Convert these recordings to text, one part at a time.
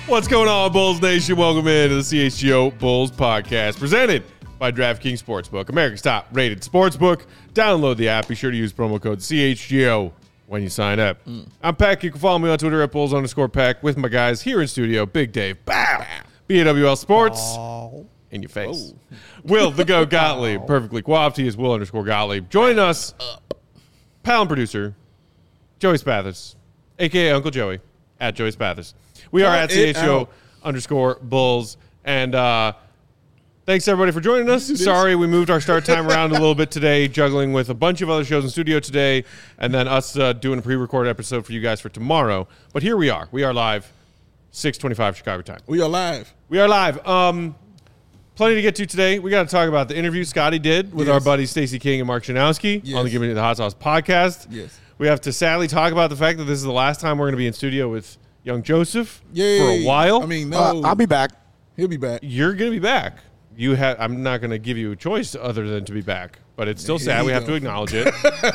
What's going on, Bulls Nation? Welcome into the CHGO Bulls podcast, presented by DraftKings Sportsbook, America's top-rated sportsbook. Download the app. Be sure to use promo code CHGO when you sign up. I'm Peck. You can follow me on Twitter at Bulls_Peck with my guys here in studio, Big Dave, bow, BAWL Sports, in your face. Will, the Go Gottlieb, perfectly coiffed. He is Will_Gottlieb. Join us, pal and producer, Joey Spathis, a.k.a. Uncle Joey, at Joey Spathis. We are at CHGO_Bulls. And thanks, everybody, for joining us. Sorry we moved our start time around a little bit today, juggling with a bunch of other shows in studio today, and then us doing a pre-recorded episode for you guys for tomorrow. But here we are. We are live, 6:25 Chicago time. We are live. We are live. Plenty to get to today. We got to talk about the interview Scotty did with our buddies Stacey King and Mark Shanowski on the Give Me the Hot Sauce podcast. Yes. We have to sadly talk about the fact that this is the last time we're going to be in studio with young Joseph for a while. I mean, no. I'll be back. He'll be back. You're going to be back. I'm not going to give you a choice other than to be back, but it's still sad. We have to acknowledge it.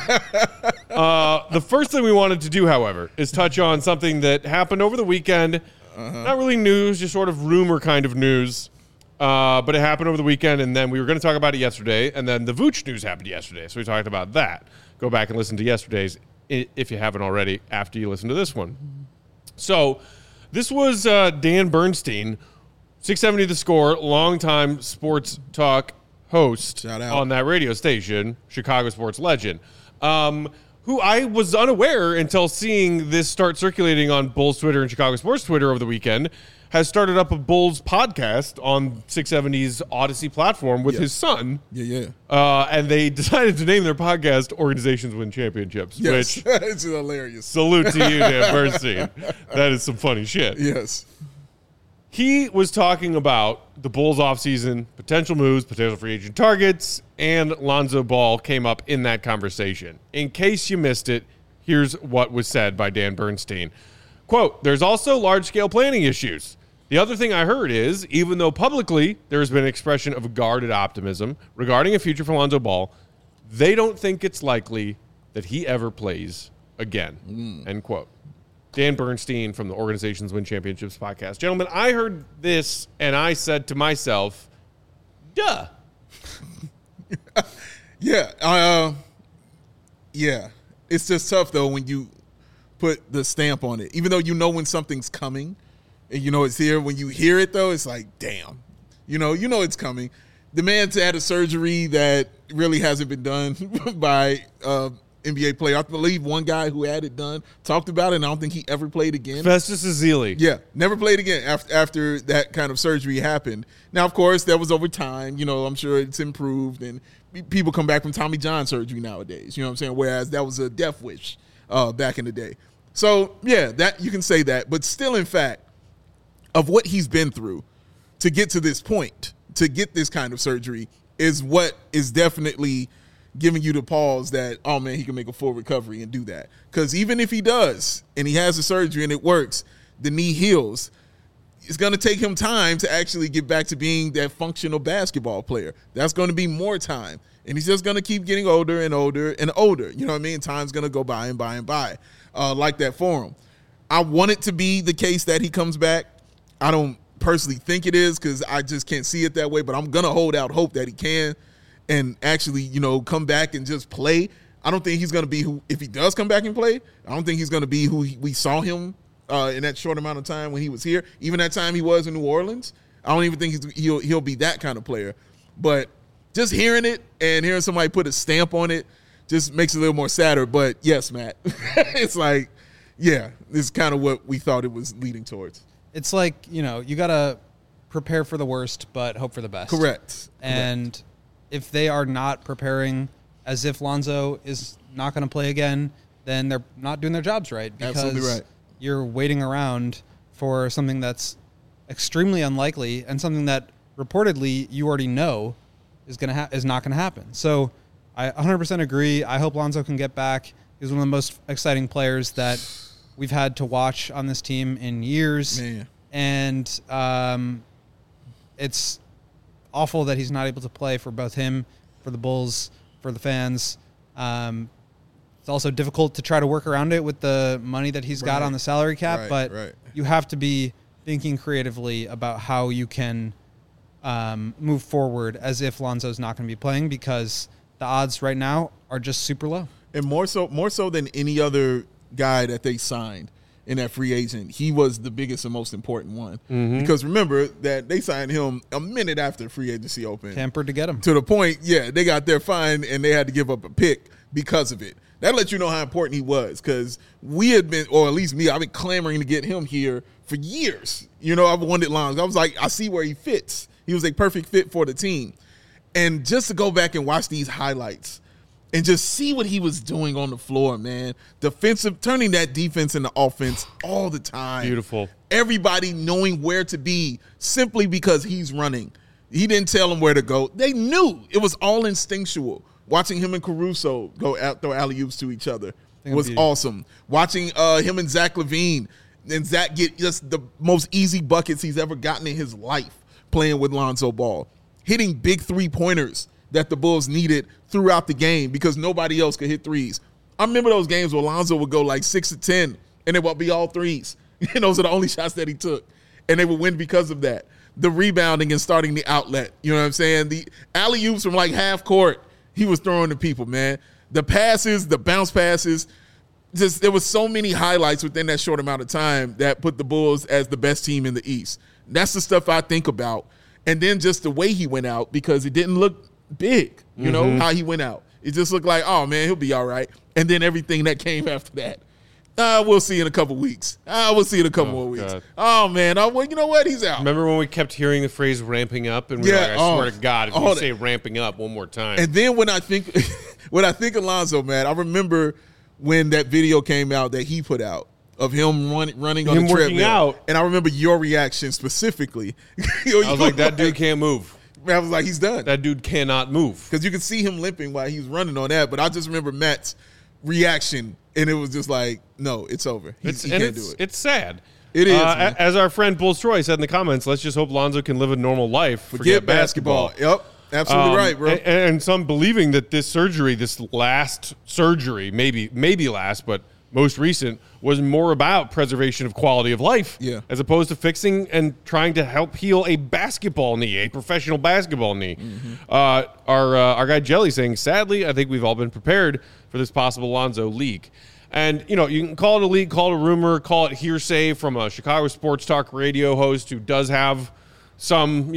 The first thing we wanted to do, however, is touch on something that happened over the weekend. Not really news, just sort of rumor kind of news. But it happened over the weekend, and then we were going to talk about it yesterday, and then the Vooch news happened yesterday, so we talked about that. Go back and listen to yesterday's, if you haven't already, after you listen to this one. So this was Dan Bernstein, 670 The Score, longtime sports talk host on that radio station, Chicago sports legend, who I was unaware until seeing this start circulating on Bulls Twitter and Chicago sports Twitter over the weekend, has started up a Bulls podcast on 670's Odyssey platform with his son. And they decided to name their podcast Organizations Win Championships, which it's hilarious. Salute to you, Dan Bernstein. That is some funny shit. Yes. He was talking about the Bulls offseason, potential moves, potential free agent targets, and Lonzo Ball came up in that conversation. In case you missed it, here's what was said by Dan Bernstein. Quote, "There's also large-scale planning issues. The other thing I heard is, even though publicly there has been an expression of guarded optimism regarding a future for Lonzo Ball, they don't think it's likely that he ever plays again." End quote. Dan Bernstein from the Organizations Win Championships podcast. Gentlemen, I heard this, and I said to myself, duh. Yeah. It's just tough, though, when you put the stamp on it. Even though you know when something's coming, and you know it's here, when you hear it, though, it's like, damn. You know it's coming. The man's had a surgery that really hasn't been done by NBA player. I believe one guy who had it done talked about it, and I don't think he ever played again. Festus Ezeli. Yeah, never played again after that kind of surgery happened. Now, of course, that was over time. You know, I'm sure it's improved, and people come back from Tommy John surgery nowadays. You know what I'm saying? Whereas that was a death wish back in the day. So, yeah, that you can say that. But still, in fact, of what he's been through to get to this point, to get this kind of surgery, is what is definitely giving you the pause that, oh, man, he can make a full recovery and do that. Because even if he does and he has the surgery and it works, the knee heals, it's going to take him time to actually get back to being that functional basketball player. That's going to be more time. And he's just going to keep getting older and older and older. You know what I mean? Time's going to go by and by and by like that for him. I want it to be the case that he comes back. I don't personally think it is because I just can't see it that way, but I'm going to hold out hope that he can and actually, come back and just play. I don't think he's going to be who, if he does come back and play, I don't think he's going to be who we saw him in that short amount of time when he was here. Even that time he was in New Orleans, I don't even think he'll be that kind of player. But just hearing it and hearing somebody put a stamp on it just makes it a little more sadder. But yes, Matt, it's like, yeah, this is kind of what we thought it was leading towards. It's like, you got to prepare for the worst, but hope for the best. Correct. And if they are not preparing as if Lonzo is not going to play again, then they're not doing their jobs right. Because absolutely right. You're waiting around for something that's extremely unlikely and something that reportedly you already know is not going to happen. So I 100% agree. I hope Lonzo can get back. He's one of the most exciting players that we've had to watch on this team in years. Man. And it's awful that he's not able to play for both him, for the Bulls, for the fans. It's also difficult to try to work around it with the money that he's got on the salary cap, but you have to be thinking creatively about how you can move forward as if Lonzo's not going to be playing, because the odds right now are just super low. And more so than any other guy that they signed in that free agent, he was the biggest and most important one. Because remember that they signed him a minute after free agency opened. Tampered to get him. To the point, they got their fine and they had to give up a pick because of it. That lets you know how important he was, because we had been, or at least me, I've been clamoring to get him here for years. I've wanted Lonzo. I was like, I see where he fits. He was a perfect fit for the team. And just to go back and watch these highlights and just see what he was doing on the floor, man. Turning that defense into offense all the time. Beautiful. Everybody knowing where to be simply because he's running. He didn't tell them where to go. They knew. It was all instinctual. Watching him and Caruso go out, throw alley-oops to each other was awesome. Watching him and Zach LaVine, and Zach get just the most easy buckets he's ever gotten in his life playing with Lonzo Ball. Hitting big three-pointers that the Bulls needed throughout the game because nobody else could hit threes. I remember those games where Lonzo would go like 6 of 10, and it would be all threes. Those are the only shots that he took, and they would win because of that. The rebounding and starting the outlet, you know what I'm saying? The alley-oops from like half court, he was throwing to people, man. The passes, the bounce passes, just there was so many highlights within that short amount of time that put the Bulls as the best team in the East. That's the stuff I think about. And then just the way he went out, because it didn't look big, you know, how he went out. It just looked like, oh, man, he'll be all right. And then everything that came after that. We'll see in a couple weeks. We'll see in a couple more weeks. God. Oh, man. Well, you know what? He's out. Remember when we kept hearing the phrase ramping up? And we were like, I swear to God, if you say ramping up one more time. And then when I think of Lonzo, man, I remember when that video came out that he put out of him running on the treadmill. Out. And I remember your reaction specifically. I was like, that dude can't move. I was like, he's done. That dude cannot move. Because you could see him limping while he was running on that. But I just remember Matt's reaction, and it was just like, no, it's over. He can't do it. It's sad. It is. As our friend Bulls Troy said in the comments, let's just hope Lonzo can live a normal life. Forget basketball. Yep. Absolutely right, bro. And some believing that this surgery, this last surgery, maybe last, but most recent, was more about preservation of quality of life, as opposed to fixing and trying to help heal a basketball knee, a professional basketball knee. Our guy Jelly saying, sadly, I think we've all been prepared for this possible Lonzo leak. And, you know, you can call it a leak, call it a rumor, call it hearsay from a Chicago sports talk radio host who does have some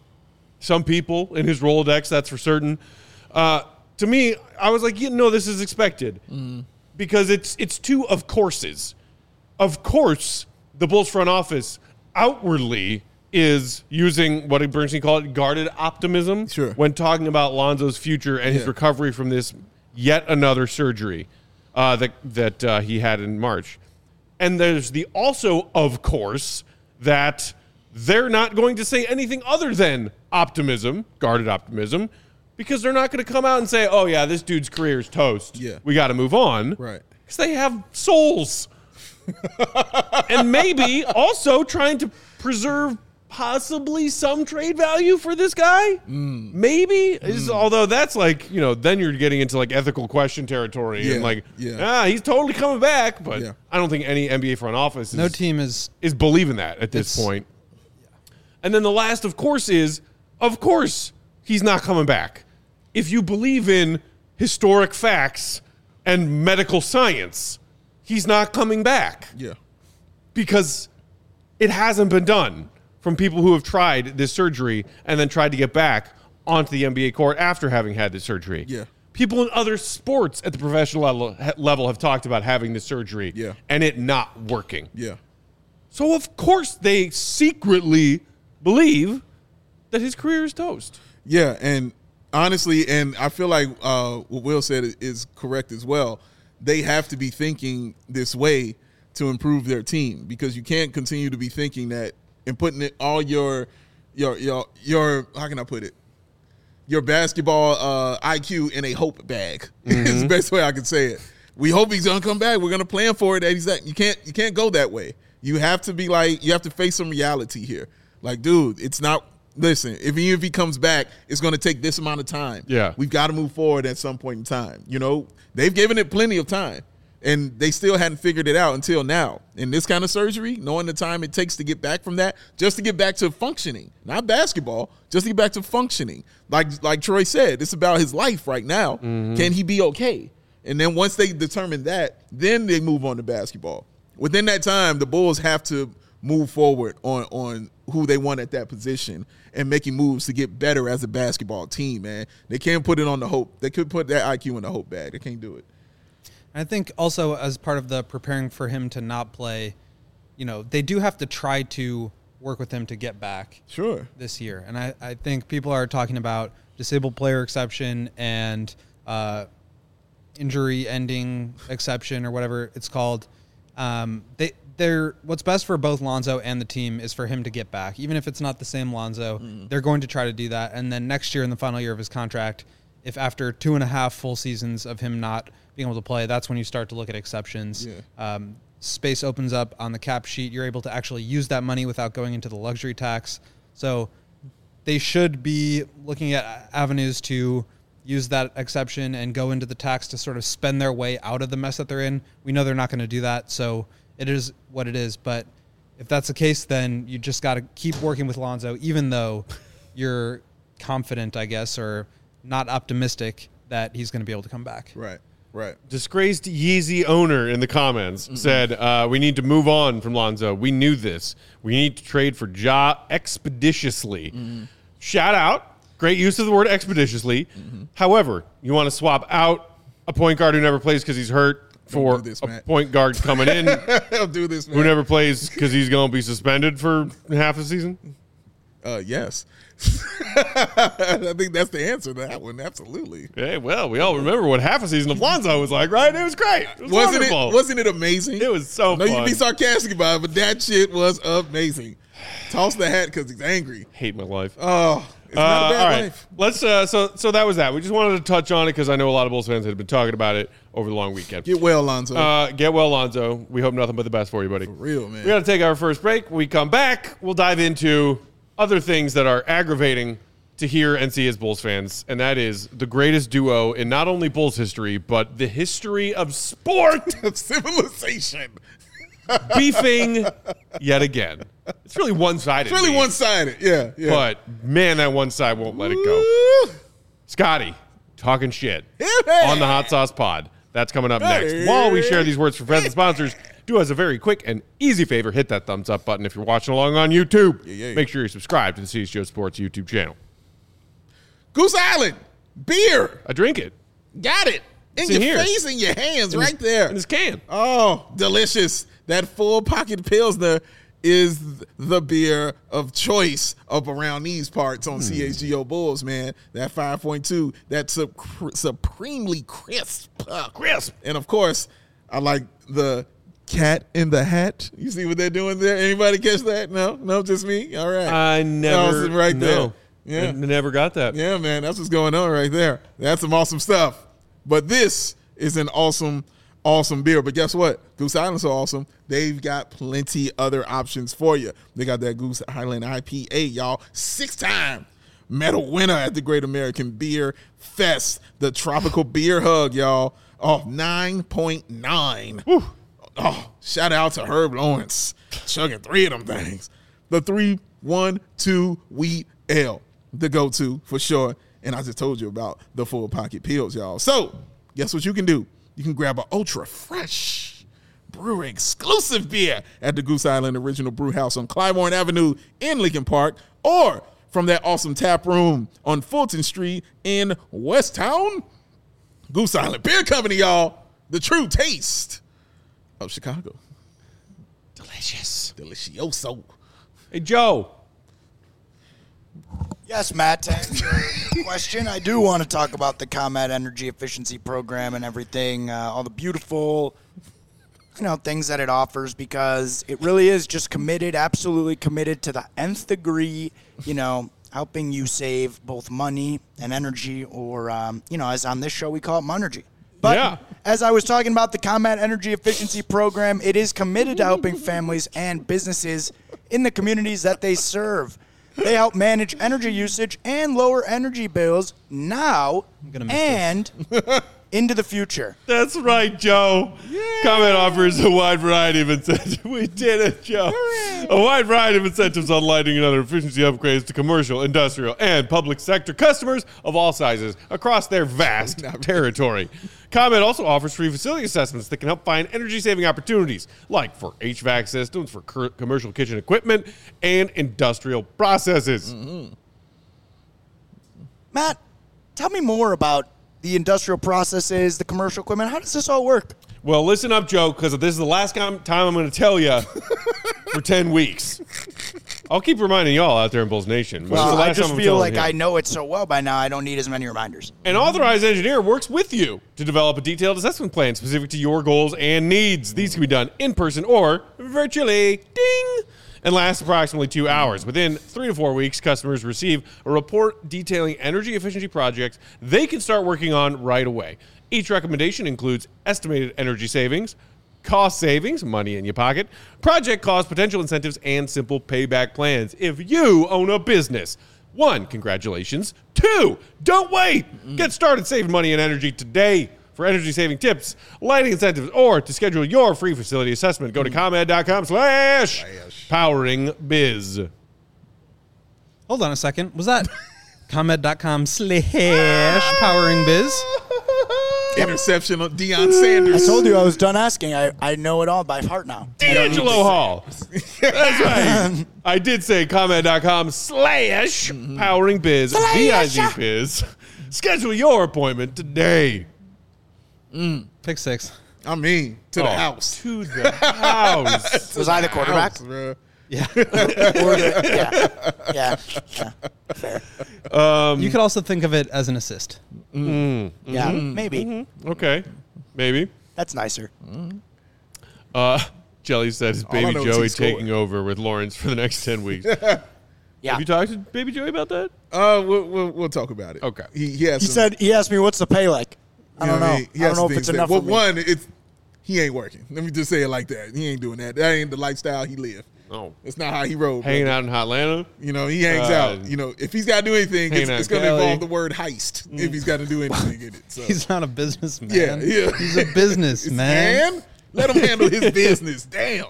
people in his Rolodex, that's for certain. To me, I was like, this is expected. Because it's two of courses. Of course, the Bulls front office outwardly is using what Bernstein called it guarded optimism when talking about Lonzo's future and his recovery from this yet another surgery that he had in March. And there's the also, of course, that they're not going to say anything other than optimism, guarded optimism, because they're not going to come out and say, oh, yeah, this dude's career is toast. Yeah. We got to move on. Right. Because they have souls. And maybe also trying to preserve possibly some trade value for this guy. Maybe. Although that's like, then you're getting into like ethical question territory. And he's totally coming back. But I don't think any NBA front office is believing that at this point. And then the last, of course, is, of course, he's not coming back. If you believe in historic facts and medical science, he's not coming back. Yeah. Because it hasn't been done from people who have tried this surgery and then tried to get back onto the NBA court after having had this surgery. Yeah. People in other sports at the professional level have talked about having this surgery and it not working. Yeah. So, of course, they secretly believe that his career is toast. Yeah, and honestly, and I feel like what Will said is correct as well. They have to be thinking this way to improve their team, because you can't continue to be thinking that and putting it all your how can I put it? Your basketball IQ in a hope bag. Is the best way I can say it. We hope he's gonna come back. We're gonna plan for it. You can't go that way. You have to be like, you have to face some reality here. Like, dude, it's not. Listen, even if he comes back, it's going to take this amount of time. Yeah. We've got to move forward at some point in time. They've given it plenty of time. And they still hadn't figured it out until now. And this kind of surgery, knowing the time it takes to get back from that, just to get back to functioning, not basketball, just to get back to functioning. Like Troy said, it's about his life right now. Mm-hmm. Can he be okay? And then once they determine that, then they move on to basketball. Within that time, the Bulls have to move forward on who they want at that position and making moves to get better as a basketball team, man. They can't put it on the hope. They could put that IQ in the hope bag. They can't do it. I think also as part of the preparing for him to not play, they do have to try to work with him to get back this year. And I think people are talking about disabled player exception and injury ending exception or whatever it's called. What's best for both Lonzo and the team is for him to get back. Even if it's not the same Lonzo, they're going to try to do that. And then next year in the final year of his contract, if after 2.5 full seasons of him not being able to play, that's when you start to look at exceptions. Yeah. Space opens up on the cap sheet. You're able to actually use that money without going into the luxury tax. So they should be looking at avenues to use that exception and go into the tax to sort of spend their way out of the mess that they're in. We know they're not going to do that, so it is what it is. But if that's the case, then you just got to keep working with Lonzo, even though you're confident, I guess, or not optimistic that he's going to be able to come back. Right. Disgraced Yeezy owner in the comments said, we need to move on from Lonzo. We knew this. We need to trade for Ja expeditiously. Shout out. Great use of the word expeditiously. However, you want to swap out a point guard who never plays because he's hurt for a point guard coming in I'll do this, man. who never plays because he's going to be suspended for half a season? Yes. I think that's the answer to that one. Absolutely. Hey, well, we all remember what half a season of Lonzo was like, right? It was great. It was wonderful. Wasn't it amazing? It was so fun. You can be sarcastic about it, but that shit was amazing. Toss the hat because he's angry. Hate my life. Oh, it's not a bad all right. life. Let's. So that was that. We just wanted to touch on it because I know a lot of Bulls fans had been talking about it over the long weekend. Get well, Lonzo. Get well, Lonzo. We hope nothing but the best for you, buddy. For real, man. We got to take our first break. When we come back, we'll dive into other things that are aggravating to hear and see as Bulls fans, and that is the greatest duo in not only Bulls history, but the history of sport. Of civilization. Beefing yet again. It's really one-sided. It's really one-sided, yeah. But, man, that one side won't let it go. Scotty, talking shit on the Hot Sauce Pod. That's coming up next. While we share these words for friends and sponsors, do us a very quick and easy favor. Hit that thumbs up button if you're watching along on YouTube. Make sure you're subscribed to the CHGO Sports YouTube channel. Goose Island, beer. I drink it. Got it. In your face, in your hands, right there. In this can. Oh, delicious. That full pocket Pilsner is the beer of choice up around these parts on CHGO Bulls, man. That 5.2, that supremely crisp. And, of course, I like the Cat in the Hat. You see what they're doing there? Anybody catch that? No, just me? All right. I never. Right there. No. Yeah. I never got that. Yeah, man. That's what's going on right there. That's some awesome stuff. But this is an awesome beer. But guess what? Goose Island's so awesome. They've got plenty other options for you. They got that Goose Island IPA, y'all. 6-time medal winner at the Great American Beer Fest. The Tropical Beer Hug, y'all. Oh, 9.9. Oh, shout out to Herb Lawrence. Chugging 3 of them things. The 3-1-2 Wheat Ale. The go-to for sure. And I just told you about the full pocket pills, y'all. So, guess what you can do? You can grab an ultra fully brewery exclusive beer at the Goose Island Original Brew House on Clybourne Avenue in Lincoln Park, or from that awesome tap room on Fulton Street in Westtown. Goose Island Beer Company, y'all. The true taste of Chicago. Delicious. Delicioso. Hey, Joe. Yes, Matt, to answer your question, I do want to talk about the ComEd Energy Efficiency Program and everything, all the beautiful, things that it offers, because it really is just absolutely committed to the nth degree, helping you save both money and energy, or, as on this show we call it Monergy. But as I was talking about the ComEd Energy Efficiency Program, it is committed to helping families and businesses in the communities that they serve. They help manage energy usage and lower energy bills now and into the future. That's right, Joe. Comment offers a wide variety of incentives. We did it, Joe. A wide variety of incentives on lighting and other efficiency upgrades to commercial, industrial, and public sector customers of all sizes across their vast territory. ComEd also offers free facility assessments that can help find energy-saving opportunities, like for HVAC systems, for commercial kitchen equipment, and industrial processes. Matt, tell me more about the industrial processes, the commercial equipment. How does this all work? Well, listen up, Joe, because this is the last time I'm going to tell you for 10 weeks. I'll keep reminding y'all out there in Bulls Nation. But Well, the last I just time I'm feel telling like him. I know it so well by now, I don't need as many reminders. An authorized engineer works with you to develop a detailed assessment plan specific to your goals and needs. These can be done in person or virtually. Ding! And last approximately 2 hours. Within 3 to 4 weeks, customers receive a report detailing energy efficiency projects they can start working on right away. Each recommendation includes estimated energy savings, cost savings, money in your pocket, project cost, potential incentives, and simple payback plans if you own a business. 1, congratulations. 2, don't wait. Get started saving money and energy today. For energy-saving tips, lighting incentives, or to schedule your free facility assessment, go to ComEd.com/poweringbiz. Hold on a second. Was that ComEd.com/poweringbiz? Interception of Deion Sanders. I told you I was done asking. I know it all by heart now. D'Angelo Hall. That's right. I did say ComEd.com/poweringbiz, B-I-Z-biz. Schedule your appointment today. Pick 6. I mean, to the house. To the house. Was I the quarterback? House, bro. Yeah. Yeah. Fair. You could also think of it as an assist. Yeah, maybe. Okay. Maybe. That's nicer. Jelly said his I baby know is Joey he scored. taking over with Lawrence for the next 10 weeks. Yeah. Have you talked to baby Joey about that? We'll talk about it. Okay. He He asked me, what's the pay like? I don't know. He I has don't know if things it's that- enough Well, for me. one, he ain't working. Let me just say it like that. He ain't doing that. That ain't the lifestyle he lived. Oh. That's not how he rolled. Hanging brother. out in Hotlanta? You know, he hangs out. You know, if he's got to do anything, Hanging out it's in going to Cali. involve the word heist if he's got to do anything in it. So. He's not a businessman. Yeah. He's a businessman. Man, let him handle his business. Damn.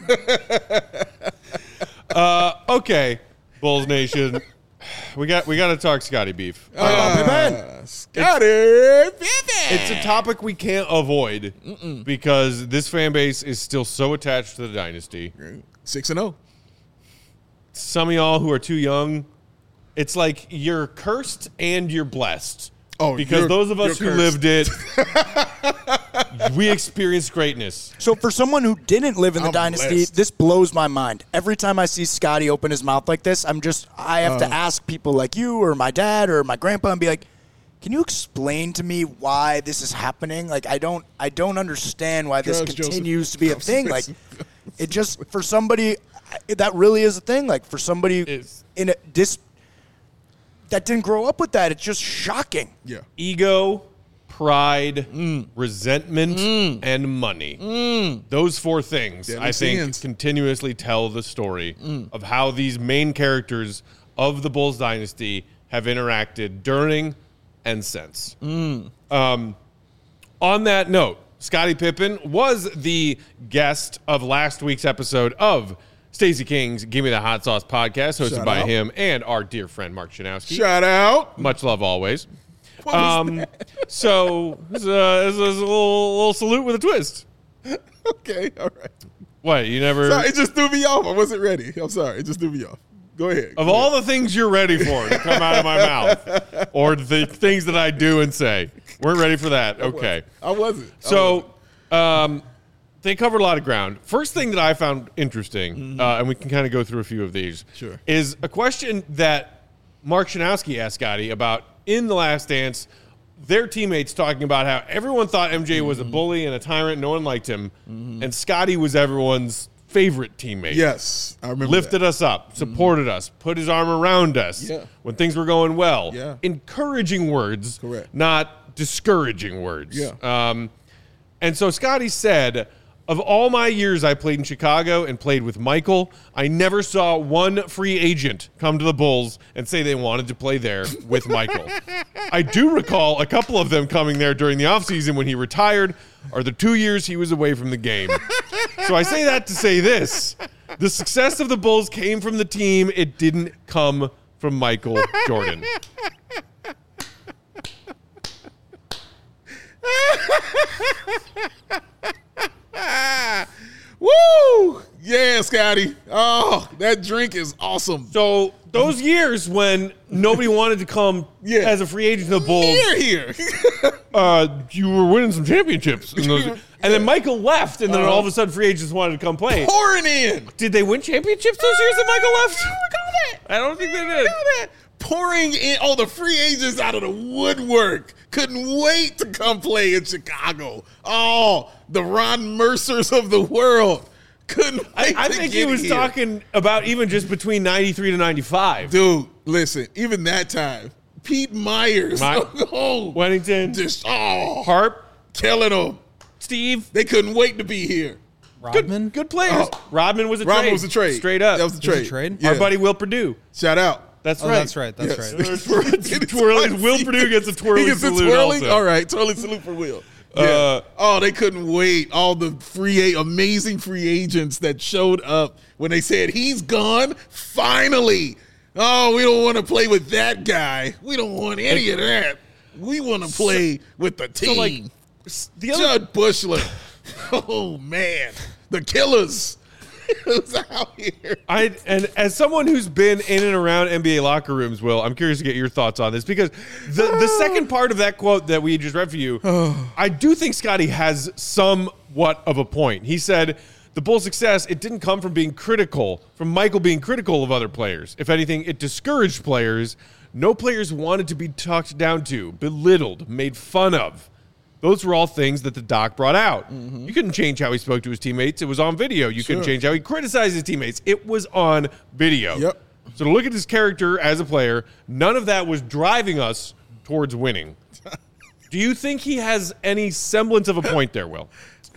Okay, Bulls Nation. We got to talk Scotty Beef. Scotty It's a topic we can't avoid because this fan base is still so attached to the dynasty. 6-0. Some of y'all who are too young, it's like you're cursed and you're blessed. Oh, because those of us who you're lived it, we experienced greatness. So for someone who didn't live in the I'm dynasty, blessed. this blows my mind. Every time I see Scotty open his mouth like this, I have to ask people like you or my dad or my grandpa and be like, can you explain to me why this is happening? Like I don't understand why this Drugs, continues Joseph. to be a thing. Like it just for somebody that really is a thing. Like for somebody in that didn't grow up with that, it's just shocking. Yeah. Ego, pride, resentment, and money. Those 4 things, Deadly I think, sins. continuously tell the story of how these main characters of the Bulls dynasty have interacted during and since. On that note, Scottie Pippen was the guest of last week's episode of Stacey King's Give Me the Hot Sauce podcast, hosted Shout by out. him and our dear friend Mark Janowski. Shout out. Much love always. What was that? So this is a little salute with a twist. Okay, all right. What, you never... Sorry, it just threw me off. I wasn't ready. I'm sorry. It just threw me off. Go ahead. Of all the things you're ready for to come out of my mouth, or the things that I do and say, weren't ready for that. Okay. I wasn't. So they covered a lot of ground. First thing that I found interesting, and we can kind of go through a few of these, Sure. is a question that Mark Janowski asked Scotty about in The Last Dance. Their teammates talking about how everyone thought MJ was a bully and a tyrant. No one liked him. And Scotty was everyone's favorite teammate. Yes, I remember. Lifted that. us up, supported us, put his arm around us Yeah. when things were going well. Yeah. Encouraging words, Correct. not discouraging words. Yeah. And so Scotty said, Of all my years I played in Chicago and played with Michael, I never saw one free agent come to the Bulls and say they wanted to play there with Michael. I do recall a couple of them coming there during the offseason when he retired, or the 2 years he was away from the game. So I say that to say this. The success of the Bulls came from the team. It didn't come from Michael Jordan. Woo! Yeah, Scotty. Oh, that drink is awesome. So those years when nobody wanted to come as a free agent to the Bulls, Here. you were winning some championships. And then Michael left, and then all of a sudden free agents wanted to come play. Pouring in. Did they win championships those years that Michael left? I don't think they did. Pouring in all the free agents out of the woodwork. Couldn't wait to come play in Chicago. Oh, the Ron Mercers of the world. Couldn't wait I to think get he was here. talking about even just between 93 to 95. Dude, listen, even that time, Pete Myers. Oh, Wennington. just, Harp. killing them. Steve. They couldn't wait to be here. Rodman? Good players. Oh. Rodman was a Rodman trade. was a trade. Straight up. That was a It was a trade. trade? Yeah. Our buddy Will Purdue. Shout out. That's Oh, right. that's right. That's Yes. right. Twirling. Will Purdue gets a twirling He gets a salute twirling? also. All right, twirling salute for Will. Yeah. They couldn't wait. All the amazing free agents that showed up when they said he's gone. Finally. Oh, we don't want to play with that guy. We don't want any of that. We want to play with the team. So, like, the other Judd Bushler. Oh man, the Killers. Who's out here? And as someone who's been in and around NBA locker rooms, Will, I'm curious to get your thoughts on this because the second part of that quote that we just read for you, I do think Scotty has somewhat of a point. He said the Bulls' success, it didn't come from Michael being critical of other players. If anything, it discouraged players. No players wanted to be talked down to, belittled, made fun of. Those were all things that the doc brought out. You couldn't change how he spoke to his teammates. It was on video. You couldn't change how he criticized his teammates. It was on video. Yep. So to look at his character as a player, none of that was driving us towards winning. Do you think he has any semblance of a point there, Will?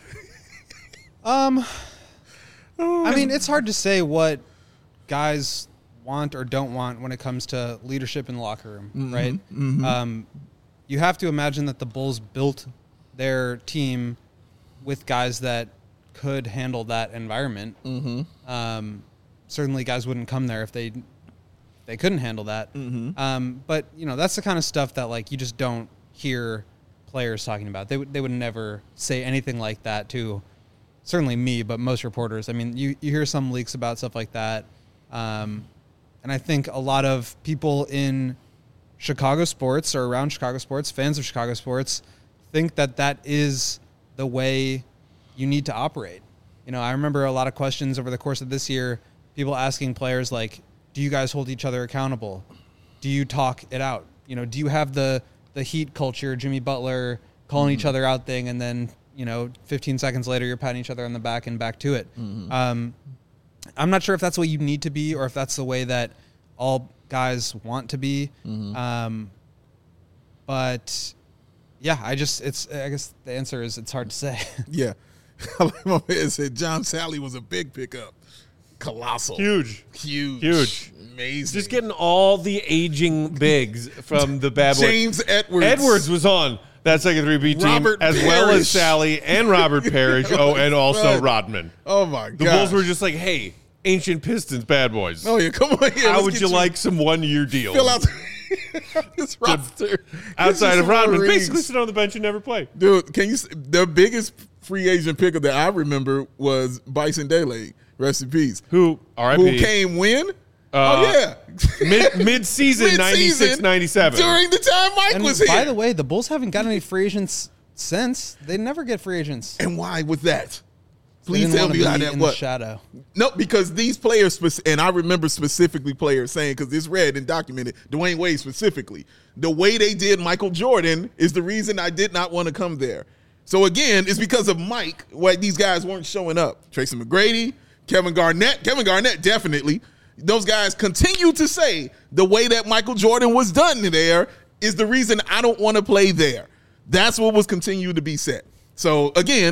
I mean, it's hard to say what guys want or don't want when it comes to leadership in the locker room, right? You have to imagine that the Bulls built their team with guys that could handle that environment. Certainly, guys wouldn't come there if they couldn't handle that. But that's the kind of stuff that like you just don't hear players talking about. They would never say anything like that to certainly me, but most reporters. I mean, you hear some leaks about stuff like that, and I think a lot of people in Chicago sports or around Chicago sports, fans of Chicago sports, think that is the way you need to operate. I remember a lot of questions over the course of this year, people asking players like, do you guys hold each other accountable? Do you talk it out? Do you have the Heat culture, Jimmy Butler calling each other out thing, and then 15 seconds later you're patting each other on the back and back to it. I'm not sure if that's the way you need to be or if that's the way that all guys want to be. But yeah, I guess the answer is it's hard to say. Yeah. Like my man said, John Sally was a big pickup. Colossal. Huge. Amazing. Just getting all the aging bigs from the bad boys. James Edwards. Edwards was on that second 3B team, Robert as well as Parrish. Sally and Robert Parrish. And also Right. Rodman. Oh my god. The Bulls were just like, hey, ancient Pistons bad boys. Oh yeah, come on here. How let's would get you like some 1 year deals? fill out this roster outside Get of you some Rodman? more Basically rings. sit on the bench and never play. Dude, the biggest free agent pickup that I remember was Bison Dele, rest in peace. Who, Who RIP, came when? Yeah. mid-season, 96, 97. During the time Mike And was here. by the way, the Bulls haven't got any free agents since. They never get free agents. And why was that? They Please didn't tell wanna me how be that in the was. shadow. No, because these players, and I remember specifically players saying, because it's read and documented, Dwayne Wade specifically, the way they did Michael Jordan is the reason I did not want to come there. So again, it's because of Mike why these guys weren't showing up. Tracy McGrady, Kevin Garnett definitely. Those guys continue to say the way that Michael Jordan was done there is the reason I don't want to play there. That's what was continued to be said. So again,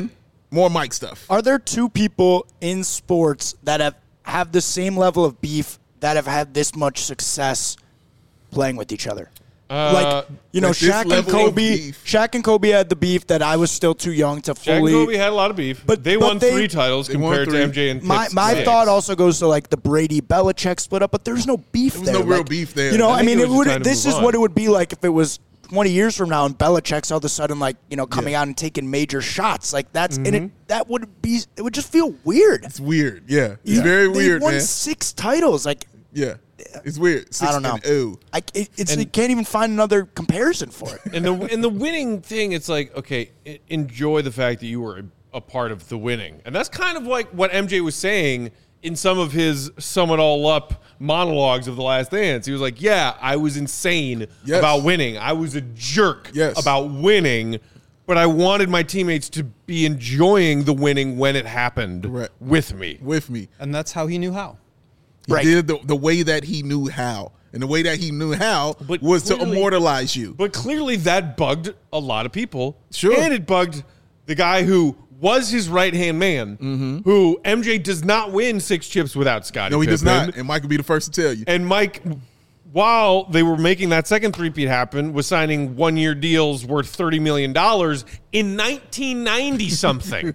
More Mike stuff. Are there two people in sports that have the same level of beef that have had this much success playing with each other? like Shaq and Kobe. Shaq and Kobe had the beef that I was still too young to fully. Shaq and Kobe had a lot of beef, but they won 3 titles compared to MJ and Pitt's my thought also goes to like the Brady Belichick split up, but there's no beef there. There's no real beef there. It would. This is what it would be like if it was 20 years from now and Belichick's all of a sudden coming out and taking major shots. Like that's in it. That would be. It would just feel weird. It's weird. Yeah, it's very weird. They won man. 6 titles. Yeah. It's weird. I don't know. You can't even find another comparison for it. And the winning thing, it's like, okay, enjoy the fact that you were a part of the winning. And that's kind of like what MJ was saying in some of his sum it all up monologues of The Last Dance. He was like, yeah, I was insane about winning. I was a jerk about winning, but I wanted my teammates to be enjoying the winning when it happened with me. And that's how he knew how. He did the way that he knew how. And the way that he knew how was to immortalize you. But clearly that bugged a lot of people. Sure. And it bugged the guy who was his right-hand man, who MJ does not win 6 chips without Scottie No, he Pippen. does not. And Mike will be the first to tell you. And Mike, while they were making that second three-peat happen, was signing 1-year deals worth $30 million in 1990-something.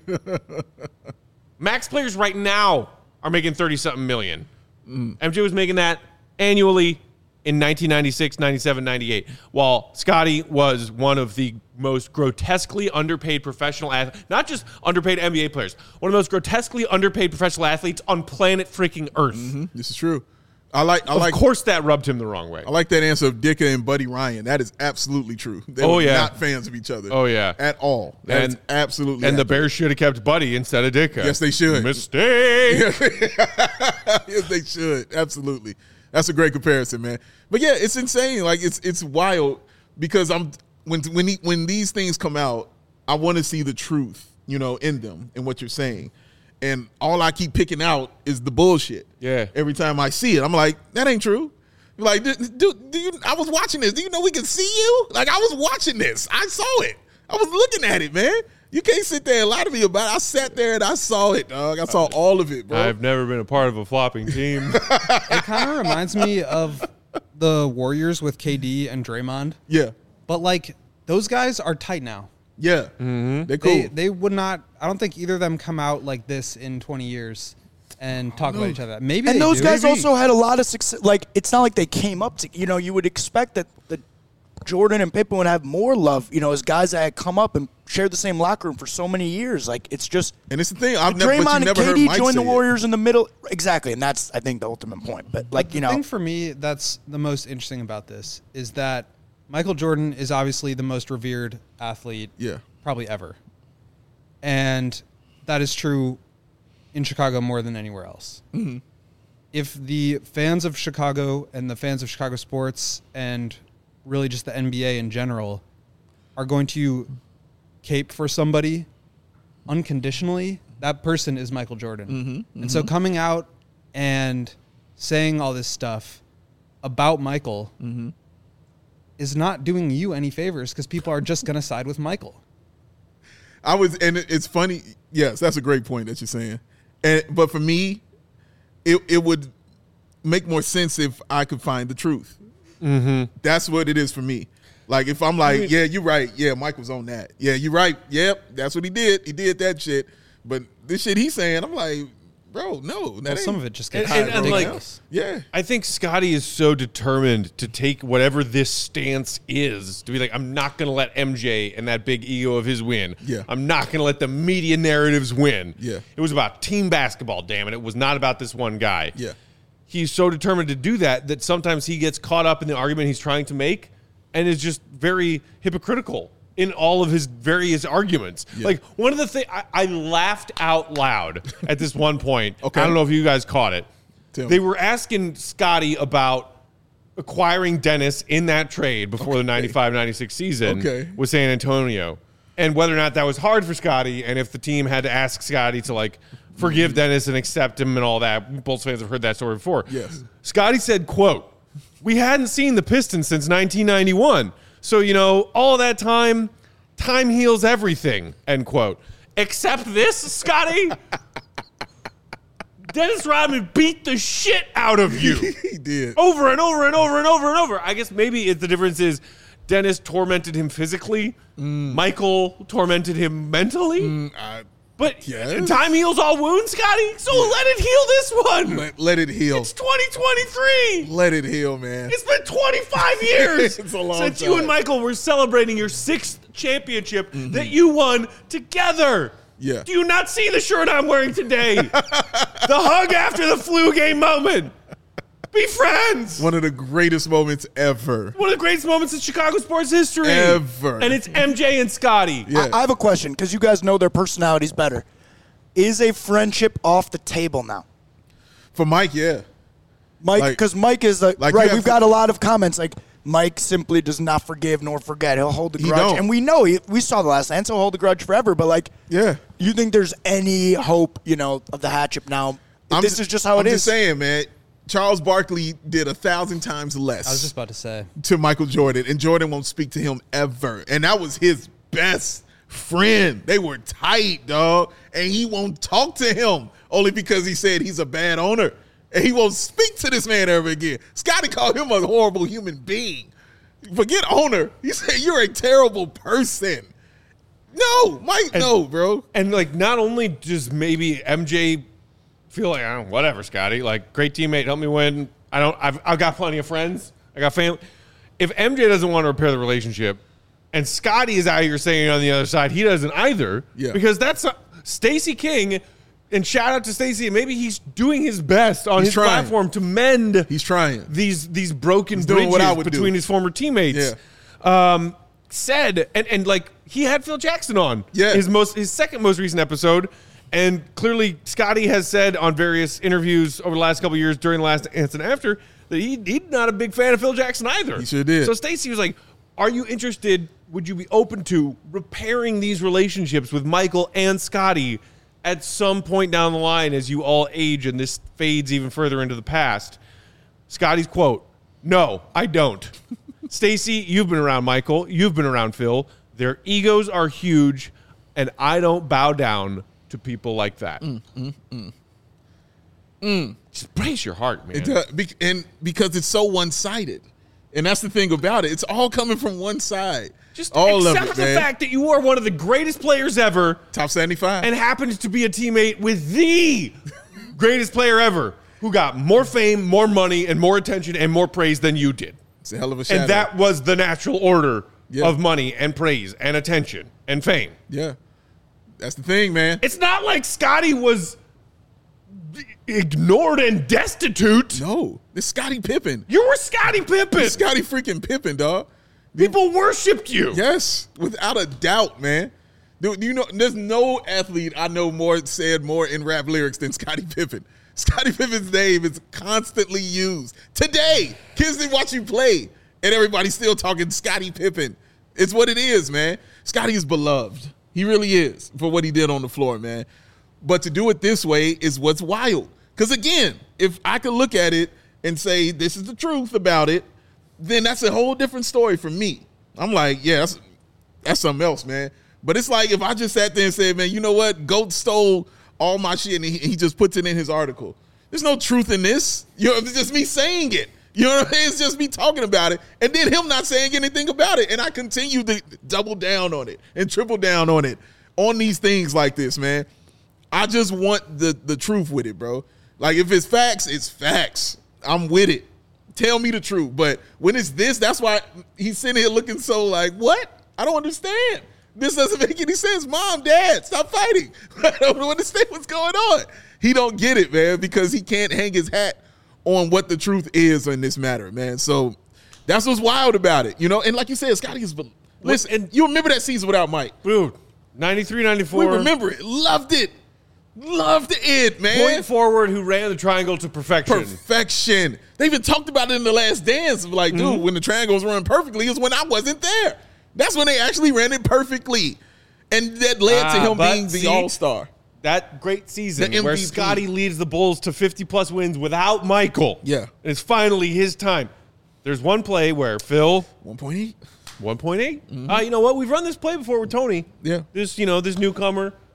Max players right now are making 30-something million. MJ was making that annually in 1996, 97, 98, while Scottie was one of the most grotesquely underpaid professional athletes, not just underpaid NBA players, one of the most grotesquely underpaid professional athletes on planet freaking Earth. This is true. Of course that rubbed him the wrong way. I like that answer of Dicka and Buddy Ryan. That is absolutely true. They were not fans of each other. Oh, yeah. At all. That is absolutely And accurate. the Bears should have kept Buddy instead of Dicka. Yes, they should. Mistake. Yes, they should. Absolutely. That's a great comparison, man. But yeah, it's insane. Like it's wild because when these things come out, I want to see the truth, in them and what you're saying. And all I keep picking out is the bullshit. Yeah. Every time I see it, I'm like, that ain't true. Like, dude, I was watching this. Do you know we can see you? Like, I was watching this. I saw it. I was looking at it, man. You can't sit there and lie to me about it. I sat there and I saw it, dog. I saw all of it, bro. I've never been a part of a flopping team. It kind of reminds me of the Warriors with KD and Draymond. Yeah. But, those guys are tight now. Yeah. Mm-hmm. They're cool. They would not – I don't think either of them come out like this in 20 years and talk about each other. Maybe and they those do. guys also had a lot of success. Like, it's not like they came up to – you would expect that the Jordan and Pippen would have more love, as guys that had come up and shared the same locker room for so many years. Like, it's just – And it's the thing. Draymond and KD joined the Warriors in in the middle. Exactly, and that's, I think, the ultimate point. But, the thing for me that's the most interesting about this is that Michael Jordan is obviously the most revered athlete probably ever. And that is true in Chicago more than anywhere else. Mm-hmm. If the fans of Chicago and the fans of Chicago sports and really just the NBA in general are going to cape for somebody unconditionally, that person is Michael Jordan. Mm-hmm, mm-hmm. And so coming out and saying all this stuff about Michael is not doing you any favors because people are just going to side with Michael. And it's funny. Yes, that's a great point that you're saying. But for me, it would make more sense if I could find the truth. Mm-hmm. That's what it is for me. Like, if I'm like, yeah, you're right. Yeah, Mike was on that. Yeah, you're right. Yep, that's what he did. He did that shit. But this shit he's saying, I'm like, bro, no. Some of it just gets ridiculous. I think Scottie is so determined to take whatever this stance is to be like, I'm not going to let MJ and that big ego of his win. Yeah. I'm not going to let the media narratives win. Yeah. It was about team basketball, damn it. It was not about this one guy. Yeah. He's so determined to do that sometimes he gets caught up in the argument he's trying to make and is just very hypocritical in all of his various arguments. Yeah. Like, one of the things, I laughed out loud at this one point. Okay. I don't know if you guys caught it. They were asking Scottie about acquiring Dennis in that trade before the 95-96 season with San Antonio, and whether or not that was hard for Scottie, and if the team had to ask Scottie to, forgive Dennis and accept him and all that. Bulls fans have heard that story before. Yes. Scottie said, quote, "We hadn't seen the Pistons since 1991. So, all that time heals everything," end quote. Accept this, Scotty. Dennis Rodman beat the shit out of you. He did. Over and over and over and over and over. I guess maybe the difference is Dennis tormented him physically. Michael tormented him mentally. But yes. time heals all wounds, Scotty. So let it heal this one. Let it heal. It's 2023. Let it heal, man. It's been 25 years It's a long since time. you and Michael were celebrating your 6th championship that you won together. Yeah. Do you not see the shirt I'm wearing today? The hug after the flu game moment. Be friends. One of the greatest moments ever. One of the greatest moments in Chicago sports history. Ever. And it's MJ and Scotty. Yeah. I have a question because you guys know their personalities better. Is a friendship off the table now? For Mike, yeah. Mike, because Mike is like right. We've got a lot of comments like Mike simply does not forgive nor forget. He'll hold the He grudge, don't. and we know we saw the last dance. He'll hold the grudge forever. But like, Yeah. you think there's any hope, of the hatchet now? This is just how it is. I'm just saying, man. Charles Barkley did 1,000 times less I was just about to say. to Michael Jordan, and Jordan won't speak to him ever. And that was his best friend. They were tight, dog. And he won't talk to him only because he said he's a bad owner. And he won't speak to this man ever again. Scotty called him a horrible human being. Forget owner. He said, you're a terrible person. No, Mike, no, bro. And like, not only does maybe MJ feel like, I don't know, whatever, Scotty, like, great teammate, help me win. I've got plenty of friends. I got family. If MJ doesn't want to repair the relationship, and Scotty is out here saying on the other side, he doesn't either. Yeah. Because that's Stacey King, and shout out to Stacey. Maybe he's doing his best on his trying. platform to mend He's trying. these broken doing what I bridges would between do. his former teammates. Yeah. Said and like he had Phil Jackson on Yeah. his second most recent episode, and clearly Scotty has said on various interviews over the last couple of years during the last Dance and After that he's not a big fan of Phil Jackson either. He sure did. So Stacey was like, "Are you interested? Would you be open to repairing these relationships with Michael and Scotty at some point down the line as you all age and this fades even further into the past?" Scotty's quote, "No, I don't." Stacey, you've been around Michael. You've been around Phil. Their egos are huge, and I don't bow down to people like that. Just brace your heart, man. And because it's so one-sided. And that's the thing about it. It's all coming from one side. Just all accept of it, the man. fact that you are one of the greatest players ever Top 75. and happened to be a teammate with the greatest player ever who got more fame, more money, and more attention and more praise than you did. It's a hell of a shadow. And that was the natural order Yeah. of money and praise and attention and fame. Yeah. That's the thing, man. It's not like Scotty was ignored and destitute. No. It's Scottie Pippen. You were Scottie Pippen. It's Scottie freaking Pippen, dog. People worshipped you. Yes, without a doubt, man. Dude, there's no athlete I know said more in rap lyrics than Scottie Pippen. Scottie Pippen's name is constantly used. Today, kids didn't watch you play, and everybody's still talking Scottie Pippen. It's what it is, man. Scottie is beloved. He really is for what he did on the floor, man. But to do it this way is what's wild. Because, again, if I could look at it and say this is the truth about it, then that's a whole different story for me. I'm like, yeah, that's something else, man. But it's like if I just sat there and said, man, you know what? GOAT stole all my shit and he just puts it in his article. There's no truth in this. It's just me saying it. You know what I mean? It's just me talking about it and then him not saying anything about it. And I continue to double down on it and triple down on it on these things like this, man. I just want the truth with it, bro. Like if it's facts, it's facts. I'm with it. Tell me the truth. But when it's this, that's why he's sitting here looking so like, what? I don't understand. This doesn't make any sense. Mom, Dad, stop fighting. I don't understand what's going on. He don't get it, man, because he can't hang his hat on what the truth is in this matter, man. So that's what's wild about it, And like you said, Scotty is – listen, and you remember that season without Mike. Dude, 93, 94. We remember it. Loved it. Loved it, man. Point forward who ran the triangle to perfection. Perfection. They even talked about it in The Last Dance. Like, dude, when the triangles run perfectly is when I wasn't there. That's when they actually ran it perfectly. And that led to him being the all-star. That great season The where MVP. Scotty leads the Bulls to 50-plus wins without Michael. Yeah. And it's finally his time. There's one play where Phil, 1.8. 1.8. You know what? We've run this play before with Tony. Yeah. This newcomer.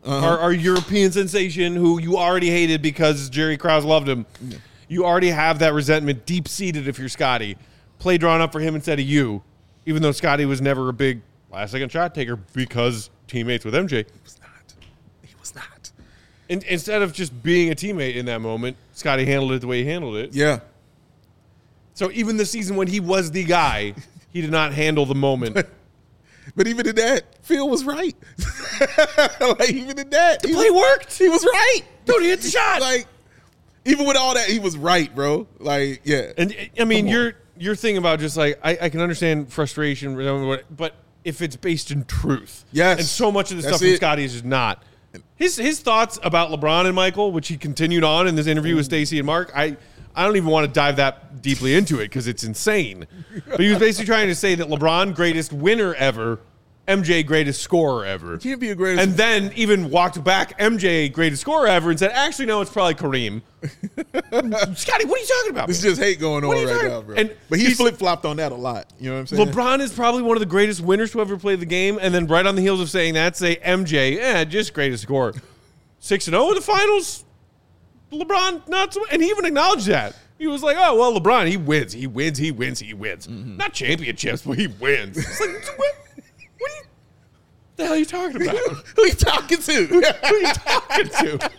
our European sensation who you already hated because Jerry Krause loved him. Yeah. You already have that resentment deep-seated if you're Scotty. Play drawn up for him instead of you, even though Scotty was never a big last-second shot taker because teammates with MJ. He was not. And instead of just being a teammate in that moment, Scotty handled it the way he handled it. Yeah. So even the season when he was the guy, he did not handle the moment. But even in that, Phil was right. Like, even in that. The play worked. He was right. Dude, he hit the shot. Like, even with all that, he was right, bro. Like, yeah. And, I mean, your thing about just, like, I can understand frustration, but if it's based in truth. Yes. And so much of the stuff from Scotty is just not. His thoughts about LeBron and Michael, which he continued on in this interview with Stacey and Mark, I don't even want to dive that deeply into it because it's insane. But he was basically trying to say that LeBron, greatest winner ever, MJ, greatest scorer ever. He can't be a greatest. And then even walked back MJ, greatest scorer ever, and said, actually, no, it's probably Kareem. Scotty, what are you talking about? There's just hate going on right now, bro. But he flip-flopped on that a lot. You know what I'm saying? LeBron is probably one of the greatest winners to ever play the game, and then right on the heels of saying that, say MJ, just greatest scorer. 6-0 in the finals. LeBron, not so, and he even acknowledged that. He was like, oh, well, LeBron, he wins. Mm-hmm. Not championships, but he wins. It's like, what the hell are you talking about? Who are you talking to? Who are you talking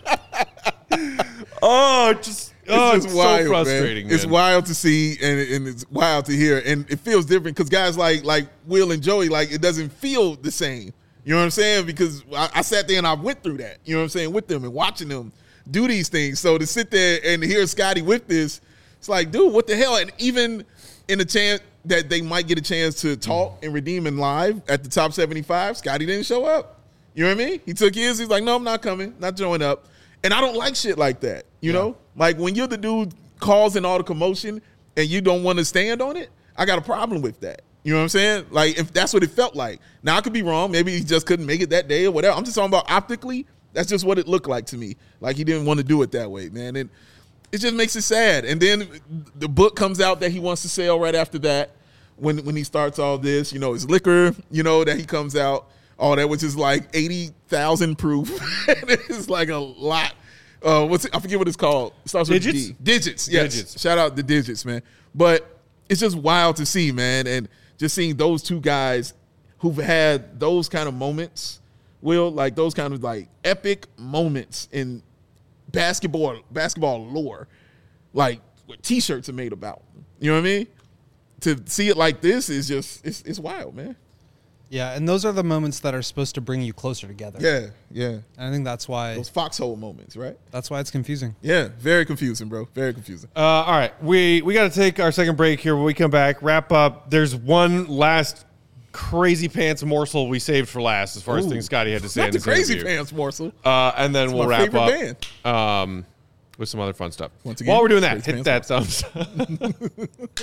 to? It's wild, so frustrating, man. It's wild to see, and it's wild to hear, and it feels different because guys like Will and Joey, like, it doesn't feel the same. You know what I'm saying? Because I sat there and I went through that, you know what I'm saying, with them and watching them do these things. So to sit there and hear Scotty with this, it's like, dude, what the hell? And even in a chance that they might get a chance to talk and redeem in live at the top 75, Scotty didn't show up. You know what I mean? He took his. He's like, no, I'm not coming, not showing up. And I don't like shit like that, you know? Like, when you're the dude causing all the commotion and you don't want to stand on it, I got a problem with that. You know what I'm saying? Like, if that's what it felt like. Now, I could be wrong. Maybe he just couldn't make it that day or whatever. I'm just talking about optically. That's just what it looked like to me. Like, he didn't want to do it that way, man. And it just makes it sad. And then the book comes out that he wants to sell right after that when he starts all this. You know, his liquor, you know, that he comes out, all that, which is like 80,000 proof. It's like a lot. I forget what it's called. It starts with Digits? D. Digits, yes. Digits. Shout out the Digits, man. But it's just wild to see, man. And just seeing those two guys who've had those kind of moments, Will, like those kind of like epic moments in basketball lore, like what T-shirts are made about. You know what I mean? To see it like this is just, it's wild, man. Yeah, and those are the moments that are supposed to bring you closer together. Yeah. And I think that's why Those foxhole moments, right? That's why it's confusing. Yeah, very confusing, bro. Very confusing. All right, we got to take our second break here. When we come back, wrap up. There's one last crazy pants morsel we saved for last, as far as things Scotty had to say. Not in the this crazy interview. pants morsel. And then we'll wrap up band. with some other fun stuff. Once again, while we're doing that, Crazy hit that thumbs up.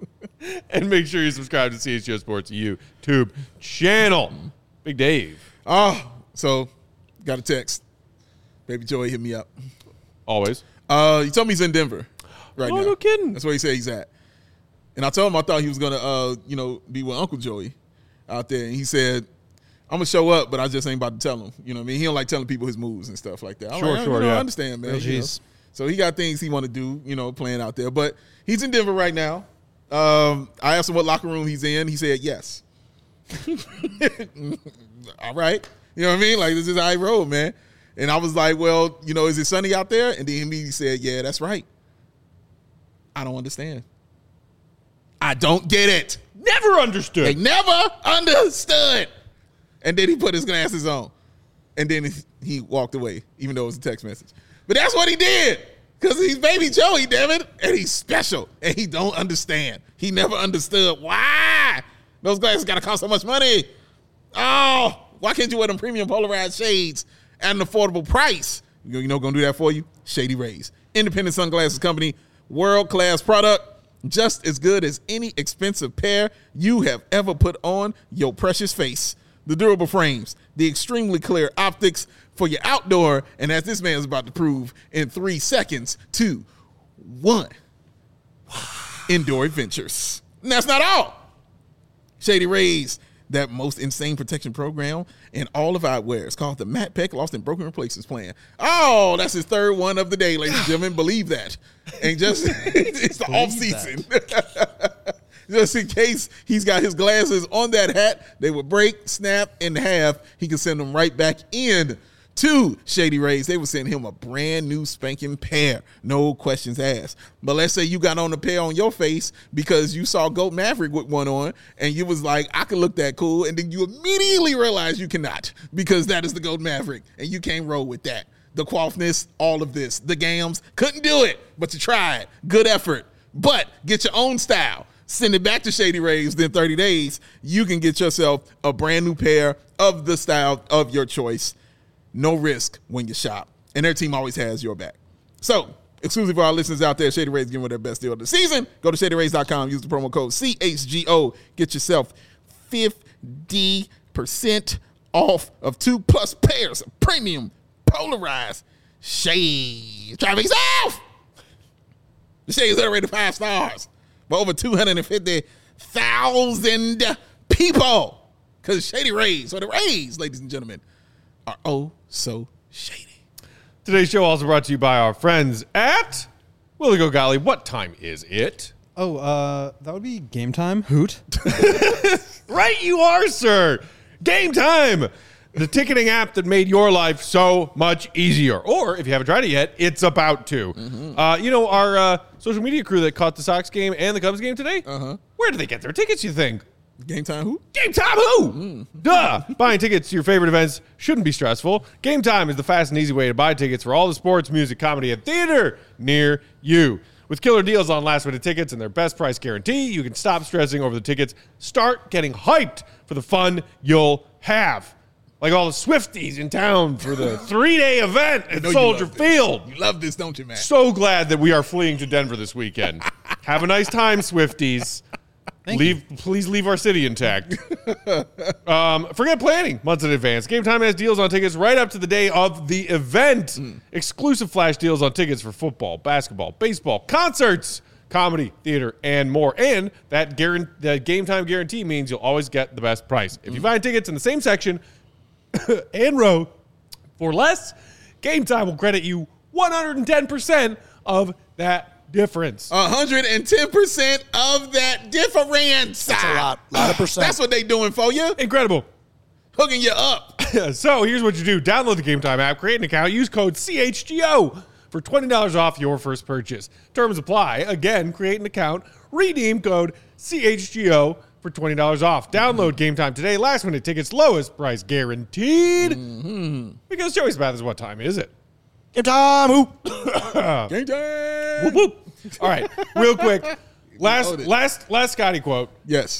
And make sure you subscribe to CHGO Sports YouTube channel. Big Dave. So got a text. Baby Joey hit me up. Always. He told me he's in Denver right now. Oh, no kidding. That's where he said he's at. And I told him I thought he was gonna be with Uncle Joey out there. And he said, I'm gonna show up, but I just ain't about to tell him. You know what I mean? He don't like telling people his moves and stuff like that. Sure, I understand, man. You know? So he got things he want to do, playing out there. But he's in Denver right now. I asked him what locker room he's in. He said yes. All right. You know what I mean? Like, this is how I roll, man. And I was like, well, is it sunny out there? And then he immediately said, yeah, that's right. I don't understand. I don't get it. Never understood. They never understood. And then he put his glasses on. And then he walked away, even though it was a text message. But that's what he did. Because he's Baby Joey, damn it. And he's special. And he don't understand. He never understood why those glasses got to cost so much money. Oh, why can't you wear them premium polarized shades at an affordable price? You know going to do that for you? Shady Rays. Independent sunglasses company. World-class product. Just as good as any expensive pair you have ever put on your precious face. The durable frames. The extremely clear optics for your outdoor, and as this man is about to prove in 3 seconds, 2, 1, indoor adventures. And that's not all. Shady Rays that most insane protection program in all of eyewear. It's called the Matt Peck Lost and Broken Replacements Plan. Oh, that's his third one of the day, ladies and gentlemen. Believe that. And just it's the off season. Just in case he's got his glasses on that hat, they would break, snap in half. He can send them right back in to Shady Rays. They would send him a brand new spanking pair. No questions asked. But let's say you got on a pair on your face because you saw Goat Maverick with one on and you was like, I can look that cool. And then you immediately realize you cannot because that is the Goat Maverick and you can't roll with that. The quaffness, all of this. The gams, couldn't do it, but you tried. Good effort. But get your own style. Send it back to Shady Rays. Then 30 days, you can get yourself a brand new pair of the style of your choice. No risk when you shop. And their team always has your back. So, exclusive for our listeners out there, Shady Rays giving away their best deal of the season. Go to ShadyRays.com. Use the promo code CHGO. Get yourself 50% off of 2+ pairs of premium polarized shades. Try for yourself. The shades are rated 5 stars by over 250,000 people. Because Shady Rays, or the Rays, ladies and gentlemen, are oh so shady. Today's show also brought to you by our friends at Willie Go Golly. What time is it? Oh, that would be Game Time. Hoot. Right you are, sir. Game Time. The ticketing app that made your life so much easier. Or, if you haven't tried it yet, it's about to. Mm-hmm. Our social media crew that caught the Sox game and the Cubs game today, where did they get their tickets, you think? Game Time who? Game Time who? Duh. Buying tickets to your favorite events shouldn't be stressful. Game Time is the fast and easy way to buy tickets for all the sports, music, comedy, and theater near you. With killer deals on last-minute tickets and their best price guarantee, you can stop stressing over the tickets. Start getting hyped for the fun you'll have. Like all the Swifties in town for the 3-day event at Soldier Field. You love this, don't you, man? So glad that we are fleeing to Denver this weekend. Have a nice time, Swifties. Please leave our city intact. Forget planning months in advance. Game Time has deals on tickets right up to the day of the event. Exclusive flash deals on tickets for football, basketball, baseball, concerts, comedy, theater, and more. And that Game Time guarantee means you'll always get the best price. If you buy tickets in the same section and row for less, Game Time will credit you 110% of that difference. 110% of that difference. That's a lot of percent. That's what they doing for you. Incredible. Hooking you up. So here's what you do. Download the Game Time app, create an account, use code CHGO for $20 off your first purchase. Terms apply. Again, create an account, redeem code CHGO for $20 off. Download Game Time today. Last minute tickets, lowest price guaranteed. Because Joey's Bath is what time is it? Game Time. Whoop. Game Time. Whoop, whoop. All right, real quick. Last Scotty quote. Yes.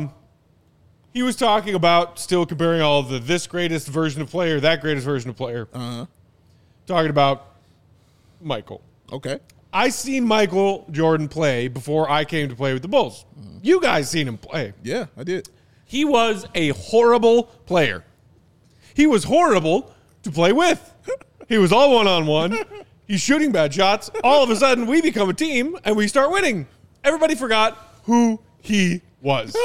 He was talking about still comparing all of the this greatest version of player, that greatest version of player. Talking about Michael. Okay. I seen Michael Jordan play before I came to play with the Bulls. You guys seen him play. Yeah, I did. He was a horrible player. He was horrible to play with. He was all one-on-one. He's shooting bad shots. All of a sudden, we become a team, and we start winning. Everybody forgot who he was.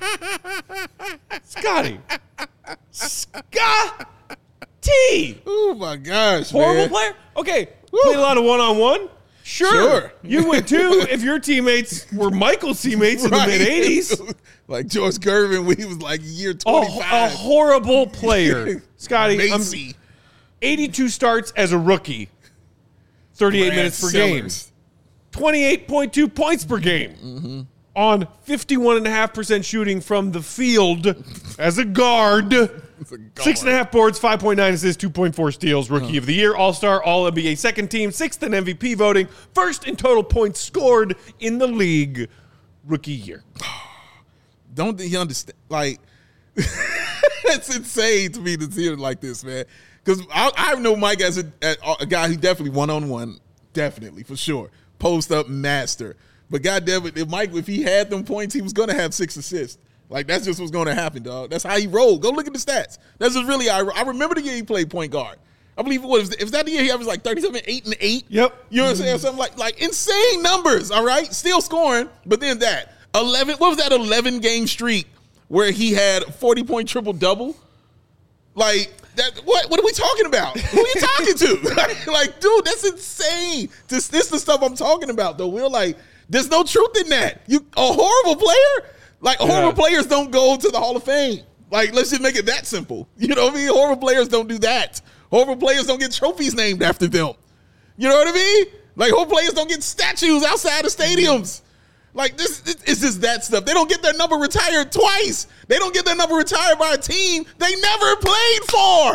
Scotty. Scotty. Oh, my gosh, Horrible player? Okay. Played a lot of one-on-one? Sure. You would, too, if your teammates were Michael's teammates in the mid-'80s. Like George Gervin when he was like year 25. A horrible player. Scotty, Macy. 82 starts as a rookie. 38 minutes per game. 28.2 points per game. On 51.5% shooting from the field as a guard. 6.5 boards, 5.9 assists, 2.4 steals. Rookie of the year, All-Star, All-NBA second team, 6th in MVP voting, 1st in total points scored in the league. Rookie year. Don't he understand? Like, it's insane to me to see it like this, man. Because I know Mike as a guy who definitely one-on-one, definitely, for sure. Post-up master. But goddamn it, if he had them points, he was going to have 6 assists. Like, that's just what's going to happen, dog. That's how he rolled. Go look at the stats. That's just really, I remember the year he played point guard. I believe it was that the year he averaged like 37, 8, and 8? Yep. You know what I'm saying? Something like insane numbers, all right? Still scoring, but then that. 11 game streak where he had a 40-point triple-double? Like, that, what are we talking about? Who are you talking to? Like, dude, that's insane. This is the stuff I'm talking about, though. We're like, there's no truth in that. You a horrible player? Like, horrible players don't go to the Hall of Fame. Like, let's just make it that simple. You know what I mean? Horrible players don't do that. Horrible players don't get trophies named after them. You know what I mean? Like, horrible players don't get statues outside of stadiums. Like, this it's just that stuff. They don't get their number retired twice. They don't get their number retired by a team they never played for.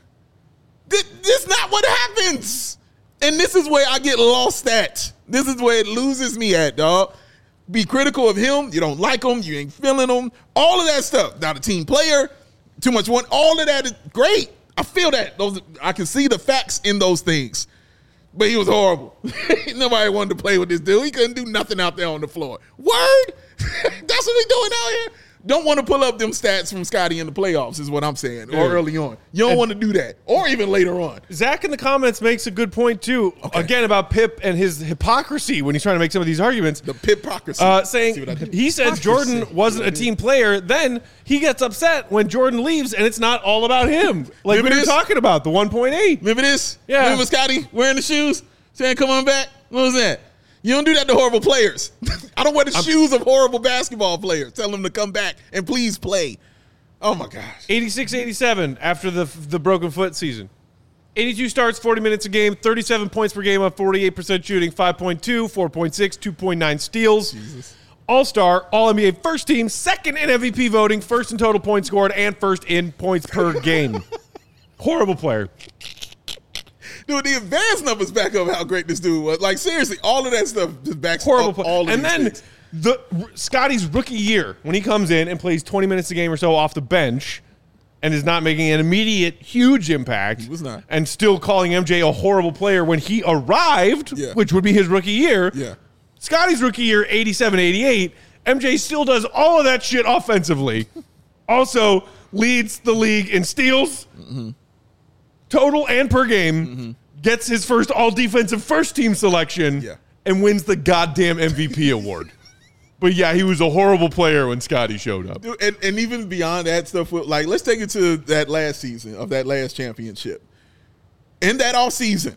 This is not what happens. And this is where I get lost at. This is where it loses me at, dog. Be critical of him. You don't like him. You ain't feeling him. All of that stuff. Not a team player. Too much one. All of that is great. I feel that. I can see the facts in those things. But he was horrible. Nobody wanted to play with this dude. He couldn't do nothing out there on the floor. Word? That's what we doing out here? Don't want to pull up them stats from Scotty in the playoffs is what I'm saying, or early on. You don't want to do that, or even later on. Zach in the comments makes a good point, too, again, about Pip and his hypocrisy when he's trying to make some of these arguments. The Pip-ocracy. Saying he said Jordan wasn't a team player. Then he gets upset when Jordan leaves, and it's not all about him. Like we were talking about, the 1.8. Remember this? Yeah. Remember Scotty wearing the shoes, saying, come on back? What was that? You don't do that to horrible players. I don't wear the shoes of horrible basketball players. Tell them to come back and please play. Oh, my gosh. 86-87 after the broken foot season. 82 starts, 40 minutes a game, 37 points per game on 48% shooting, 5.2, 4.6, 2.9 steals. Jesus. All-Star, All-NBA first team, second in MVP voting, first in total points scored, and first in points per game. Horrible player. Dude, the advanced numbers back up how great this dude was. Like, seriously, all of that stuff just backs Horrible up all of and these then things. Scotty's rookie year, when he comes in and plays 20 minutes a game or so off the bench and is not making an immediate huge impact. He was not. And still calling MJ a horrible player when he arrived, which would be his rookie year. Yeah. Scotty's rookie year, 87-88. MJ still does all of that shit offensively. Also leads the league in steals. Mm-hmm. Total and per game, gets his first all-defensive first-team selection, and wins the goddamn MVP award. But, yeah, he was a horrible player when Scotty showed up. Dude, and even beyond that stuff, like, let's take it to that last season of that last championship. In that offseason,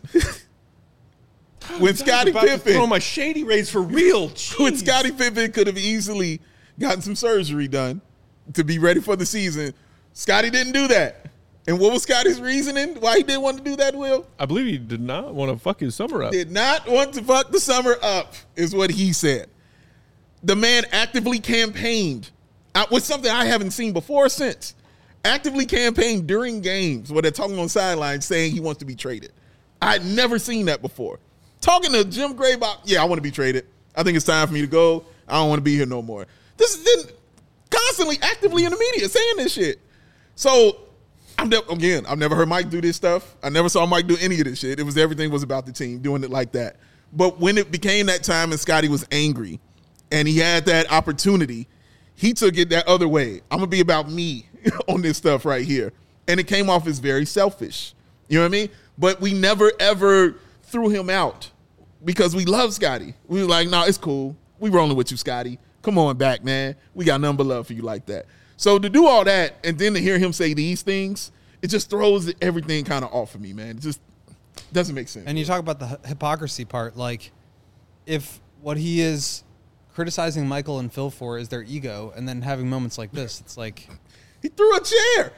when Scottie Pippen... throw my shady rays for real. When Scottie Pippen could have easily gotten some surgery done to be ready for the season, Scottie didn't do that. And what was Scotty's reasoning why he didn't want to do that, Will? I believe he did not want to fuck his summer up. Did not want to fuck the summer up, is what he said. The man actively campaigned with something I haven't seen before or since. Actively campaigned during games where they're talking on the sidelines saying he wants to be traded. I had never seen that before. Talking to Jim Gray about, I want to be traded. I think it's time for me to go. I don't want to be here no more. This is constantly actively in the media saying this shit. So... I've never heard Mike do this stuff. I never saw Mike do any of this shit. Everything was about the team, doing it like that. But when it became that time and Scotty was angry and he had that opportunity, he took it that other way. I'm going to be about me on this stuff right here. And it came off as very selfish. You know what I mean? But we never, ever threw him out because we love Scotty. We were like, no, it's cool. We rolling with you, Scotty. Come on back, man. We got nothing but love for you like that. So to do all that and then to hear him say these things, it just throws everything kind of off of me, man. It just doesn't make sense. And you talk about the hypocrisy part. Like, if what he is criticizing Michael and Phil for is their ego, and then having moments like this, it's like... He threw a chair.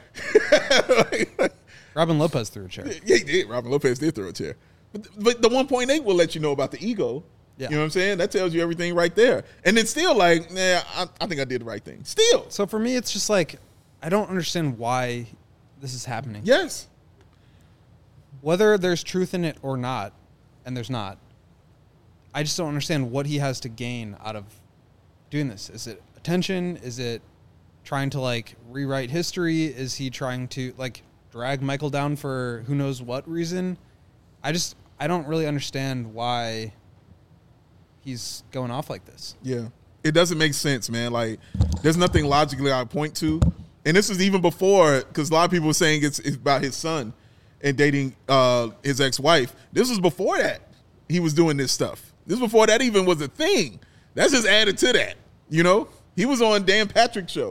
Robin Lopez threw a chair. Yeah, he did. Robin Lopez did throw a chair. But the 1.8 will let you know about the ego. Yeah. You know what I'm saying? That tells you everything right there. And it's still like, I think I did the right thing. Still. So for me, it's just like, I don't understand why this is happening. Yes. Whether there's truth in it or not, and there's not, I just don't understand what he has to gain out of doing this. Is it attention? Is it trying to, like, rewrite history? Is he trying to, like, drag Michael down for who knows what reason? I don't really understand why he's going off like this. Yeah. It doesn't make sense, man. Like, there's nothing logically I point to. And this was even before, because a lot of people were saying it's about his son and dating his ex-wife. This was before that he was doing this stuff. This was before that even was a thing. That's just added to that, you know? He was on Dan Patrick's show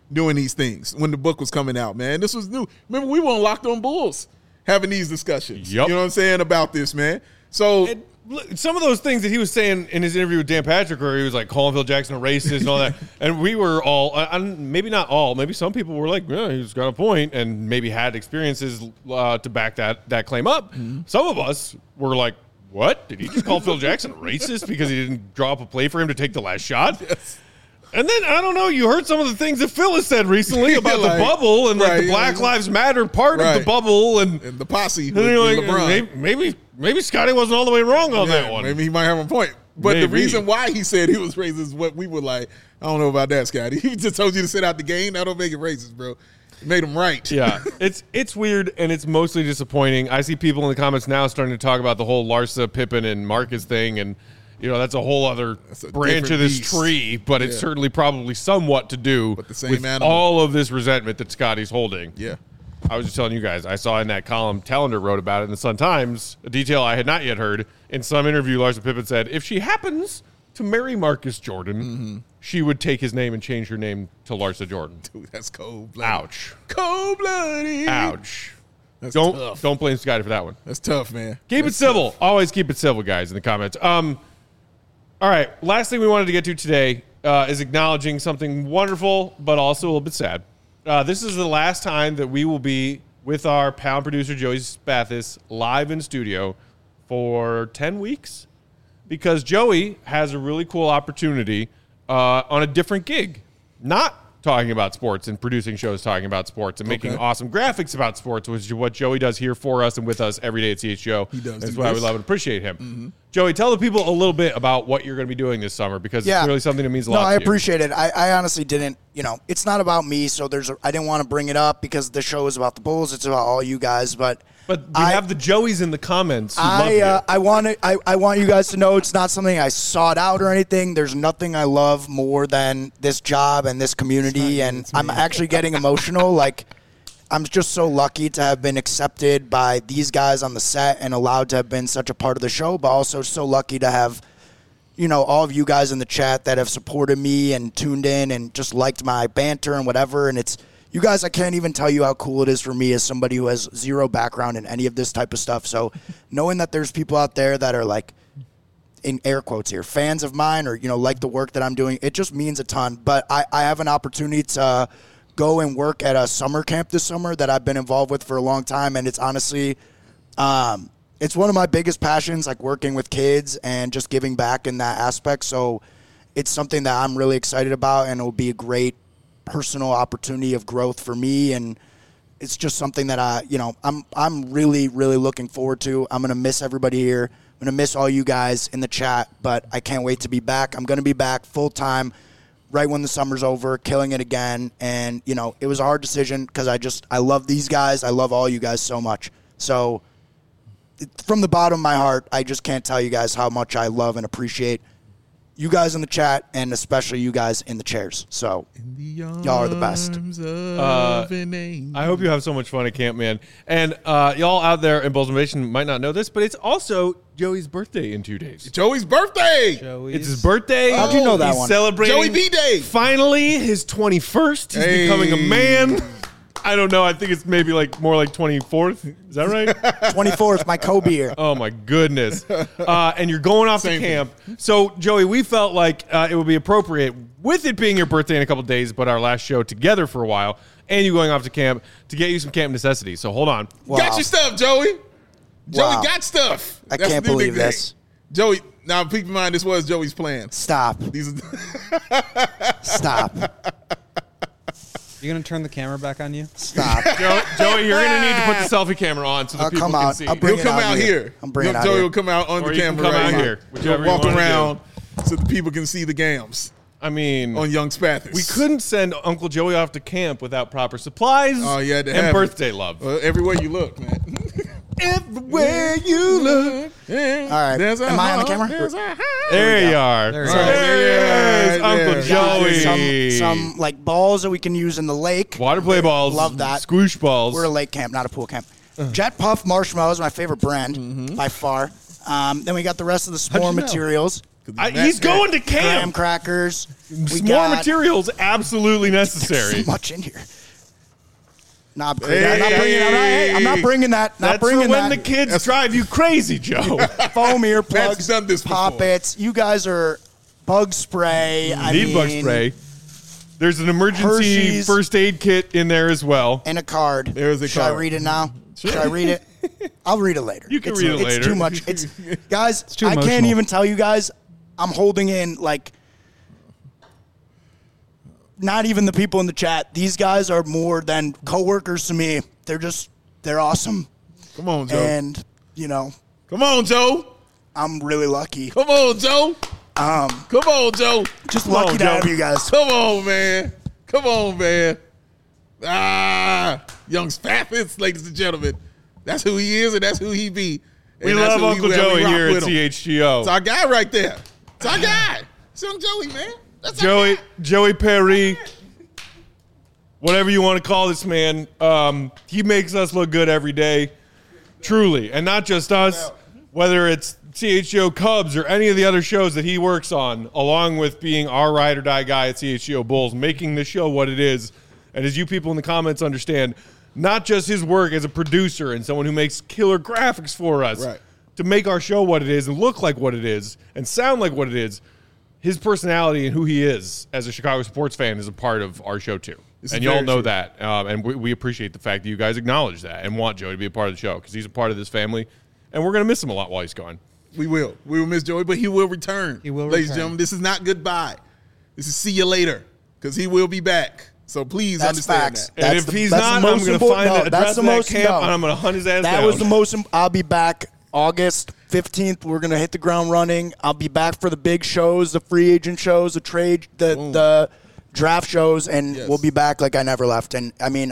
doing these things when the book was coming out, man. This was new. Remember, we were on Locked On Bulls having these discussions. Yep. You know what I'm saying about this, man. So some of those things that he was saying in his interview with Dan Patrick, where he was like calling Phil Jackson a racist and all that, and we were all, maybe not all, maybe some people were like, yeah, he's got a point, and maybe had experiences to back that claim up. Mm-hmm. Some of us were like, what? Did he just call Phil Jackson a racist because he didn't draw up a play for him to take the last shot? Yes. And then, I don't know, you heard some of the things that Phil has said recently about the bubble and like the Black Lives Matter part of the bubble and the posse with like, LeBron. Maybe Scotty wasn't all the way wrong on that one. Maybe he might have a point. But the reason why he said he was racist is what we were like, I don't know about that, Scotty. He just told you to sit out the game. That don't make it racist, bro. It made him right. Yeah, it's weird, and it's mostly disappointing. I see people in the comments now starting to talk about the whole Larsa, Pippen, and Marcus thing, and that's a whole other branch of this tree, but it's certainly probably somewhat to do with all of this resentment that Scotty's holding. Yeah. I was just telling you guys, I saw in that column, Tallender wrote about it in the Sun-Times, a detail I had not yet heard. In some interview, Larsa Pippen said, if she happens to marry Marcus Jordan, she would take his name and change her name to Larsa Jordan. Dude, that's cold-blooded. Ouch. Cold-blooded. Ouch. That's tough. Don't blame Scotty for that one. That's tough, man. Keep it civil. Tough. Always keep it civil, guys, in the comments. All right, last thing we wanted to get to today is acknowledging something wonderful, but also a little bit sad. This is the last time that we will be with our Pound producer, Joey Spathis, live in studio for 10 weeks because Joey has a really cool opportunity on a different gig. Not talking about sports and producing shows talking about sports and making awesome graphics about sports, which is what Joey does here for us and with us every day at CHGO. He does. That's why we love and appreciate him. Mm-hmm. Joey, tell the people a little bit about what you're going to be doing this summer because it's really something that means a lot to you. No, I appreciate it. I honestly didn't, it's not about me, so I didn't want to bring it up because the show is about the Bulls. It's about all you guys, But we have the Joeys in the comments. I want you guys to know it's not something I sought out or anything. There's nothing I love more than this job and this community, and I'm actually getting emotional. Like, I'm just so lucky to have been accepted by these guys on the set and allowed to have been such a part of the show, but also so lucky to have, all of you guys in the chat that have supported me and tuned in and just liked my banter and whatever. And it's, you guys, I can't even tell you how cool it is for me as somebody who has zero background in any of this type of stuff. So knowing that there's people out there that are like, in air quotes here, fans of mine or, like the work that I'm doing, it just means a ton. But I have an opportunity to go and work at a summer camp this summer that I've been involved with for a long time. And it's honestly, it's one of my biggest passions, like working with kids and just giving back in that aspect. So it's something that I'm really excited about, and it will be a great personal opportunity of growth for me. And it's just something that I'm really, really looking forward to. I'm going to miss everybody here. I'm going to miss all you guys in the chat, but I can't wait to be back. I'm going to be back full time right when the summer's over, killing it again. And, it was a hard decision because I love these guys. I love all you guys so much. So from the bottom of my heart, I just can't tell you guys how much I love and appreciate you guys in the chat, and especially you guys in the chairs. So y'all are the best. I hope you have so much fun at camp, man. And y'all out there in Bulls Nation might not know this, but it's also Joey's birthday in 2 days. Joey's birthday. It's his birthday. How'd you know that He's one? Celebrating Joey B-Day. Finally, his 21st. He's becoming a man. I don't know. I think it's maybe more like 24th. Is that right? 24th, my Kobe year. Oh, my goodness. And you're going off to camp. So, Joey, we felt like it would be appropriate, with it being your birthday in a couple of days, but our last show together for a while, and you going off to camp, to get you some camp necessities. So, hold on. Wow. Got your stuff, Joey. Joey got stuff. I can't believe this. Joey, now keep in mind, this was Joey's plan. Stop. Stop. You gonna turn the camera back on you? Stop. Joey, you're gonna need to put the selfie camera on so the people can see. I'll bring He'll come out here. I'm bringing it out Joey here. will come out on Or the you camera. can come right out here. whichever He'll you walk wanna around so the people can see the gams I mean, on Young Spathis. we couldn't send Uncle Joey off to camp without proper supplies and birthday love. Everywhere you look, man. Everywhere you look. All right. Am I on the camera? There you are. There's Uncle Joey. Some like balls that we can use in the lake. Water play balls. Love that. Squoosh balls. We're a lake camp, not a pool camp. Jet Puff Marshmallows, my favorite brand by far. Then we got the rest of the s'more materials. He's going to Graham camp. crackers. We More got materials absolutely necessary. so much in here. I'm not bringing that. Not That's bringing for when that. the kids drive you crazy, Joe. Foam earplugs, done this before. poppets. You guys are bug spray. I Need mean, bug spray. There's an emergency Hershey's. first aid kit in there as well. And a card. There's a Should card. I read it now? Should I read it? I'll read it later. You can read it later. It's too much. Guys, too I can't emotional. even tell you guys. I'm holding in like not even the people in the chat. These guys are more than coworkers to me. They're awesome. Come on, Joe. And, you know, Come on, Joe. I'm really lucky. Come on, Joe. Come on, Joe. Just on, lucky to Joe. have you guys. Come on, man. Come on, man. Young Spaffits, ladies and gentlemen. That's who he is, and that's who he be. We And that's love who Uncle we Joey rock here at with him. CHGO. It's our guy right there. It's our guy. It's young Joey, man. That's our guy. Joey Perry, whatever you want to call this man, he makes us look good every day, truly, and not just us. Whether it's CHGO Cubs or any of the other shows that he works on, along with being our ride or die guy at CHGO Bulls, making this show what it is, and as you people in the comments understand, not just his work as a producer and someone who makes killer graphics for us, Right. to make our show what it is and look like what it is and sound like what it is. His personality and who he is as a Chicago sports fan is a part of our show too. This And is y'all very know true. that. And we appreciate the fact that you guys acknowledge that and want Joey to be a part of the show because he's a part of this family. And we're going to miss him a lot while he's gone. We will. We will miss Joey, but he will return. He will Ladies and return. gentlemen, this is not goodbye. This is see you later because he will be back. So please That's understand facts. that. And That's if the- he's that's the not, I'm most going to important- find no, the that's address the of that most- camp no. and I'm going to hunt his ass That down. was the most. I'll be back August 15th. We're gonna hit the ground running. I'll be back for the big shows, the free agent shows, the trade, the draft shows, and Yes. we'll be back like I never left. And I mean,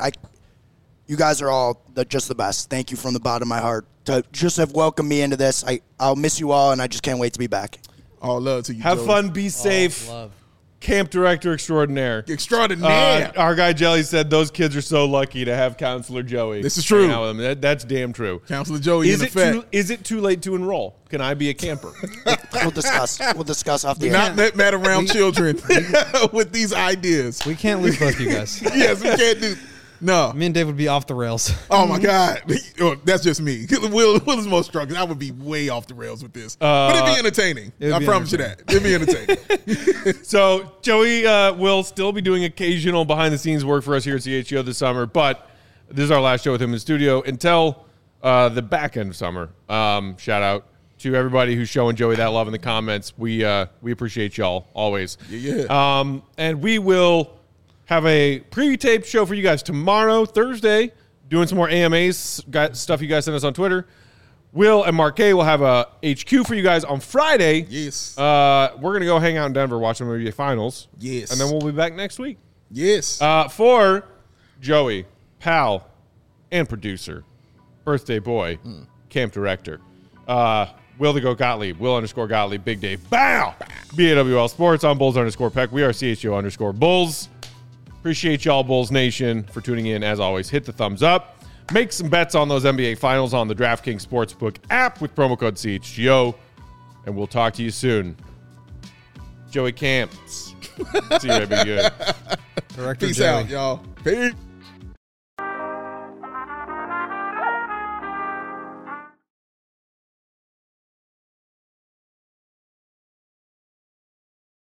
you guys are all just the best. Thank you from the bottom of my heart to just have welcomed me into this. I'll miss you all, and I just can't wait to be back. All love to you, Have Joey. fun, be safe. Love. Camp director extraordinaire. Extraordinaire. Our guy Jelly said those kids are so lucky to have Counselor Joey. This is true. hang out with them. That's damn true. Counselor Joey in effect. Is it too late to enroll? Can I be a camper? We'll discuss. We'll discuss off the Not air. let mad around children with these ideas. We can't lose both you guys. Yes, we can't do. No. Me and Dave would be off the rails. Oh my God. Oh, that's just me. Will is most strong. I would be way off the rails with this. But it'd be entertaining. It'd I be promise you that. It'd be entertaining. So Joey will still be doing occasional behind-the-scenes work for us here at CHGO this summer, but this is our last show with him in the studio until the back end of summer. Shout out to everybody who's showing Joey that love in the comments. We appreciate y'all always. Yeah. And we will have a pre-taped show for you guys tomorrow, Thursday, doing some more AMAs, stuff you guys sent us on Twitter. Will and Mark K will have a HQ for you guys on Friday. Yes. We're going to go hang out in Denver, watch the NBA Finals. Yes. And then we'll be back next week. Yes. For Joey, pal, and producer, birthday boy, camp director, Will the Go Gottlieb, Will_Gottlieb, Big Dave, bow, BAWL Sports, on Bulls_Peck. We are CHGO_Bulls. Appreciate y'all, Bulls Nation, for tuning in. As always, hit the thumbs up. Make some bets on those NBA Finals on the DraftKings Sportsbook app with promo code CHGO. And we'll talk to you soon. Joey Camps. See you, baby. Good. Director Peace Joey. out, y'all. Peace.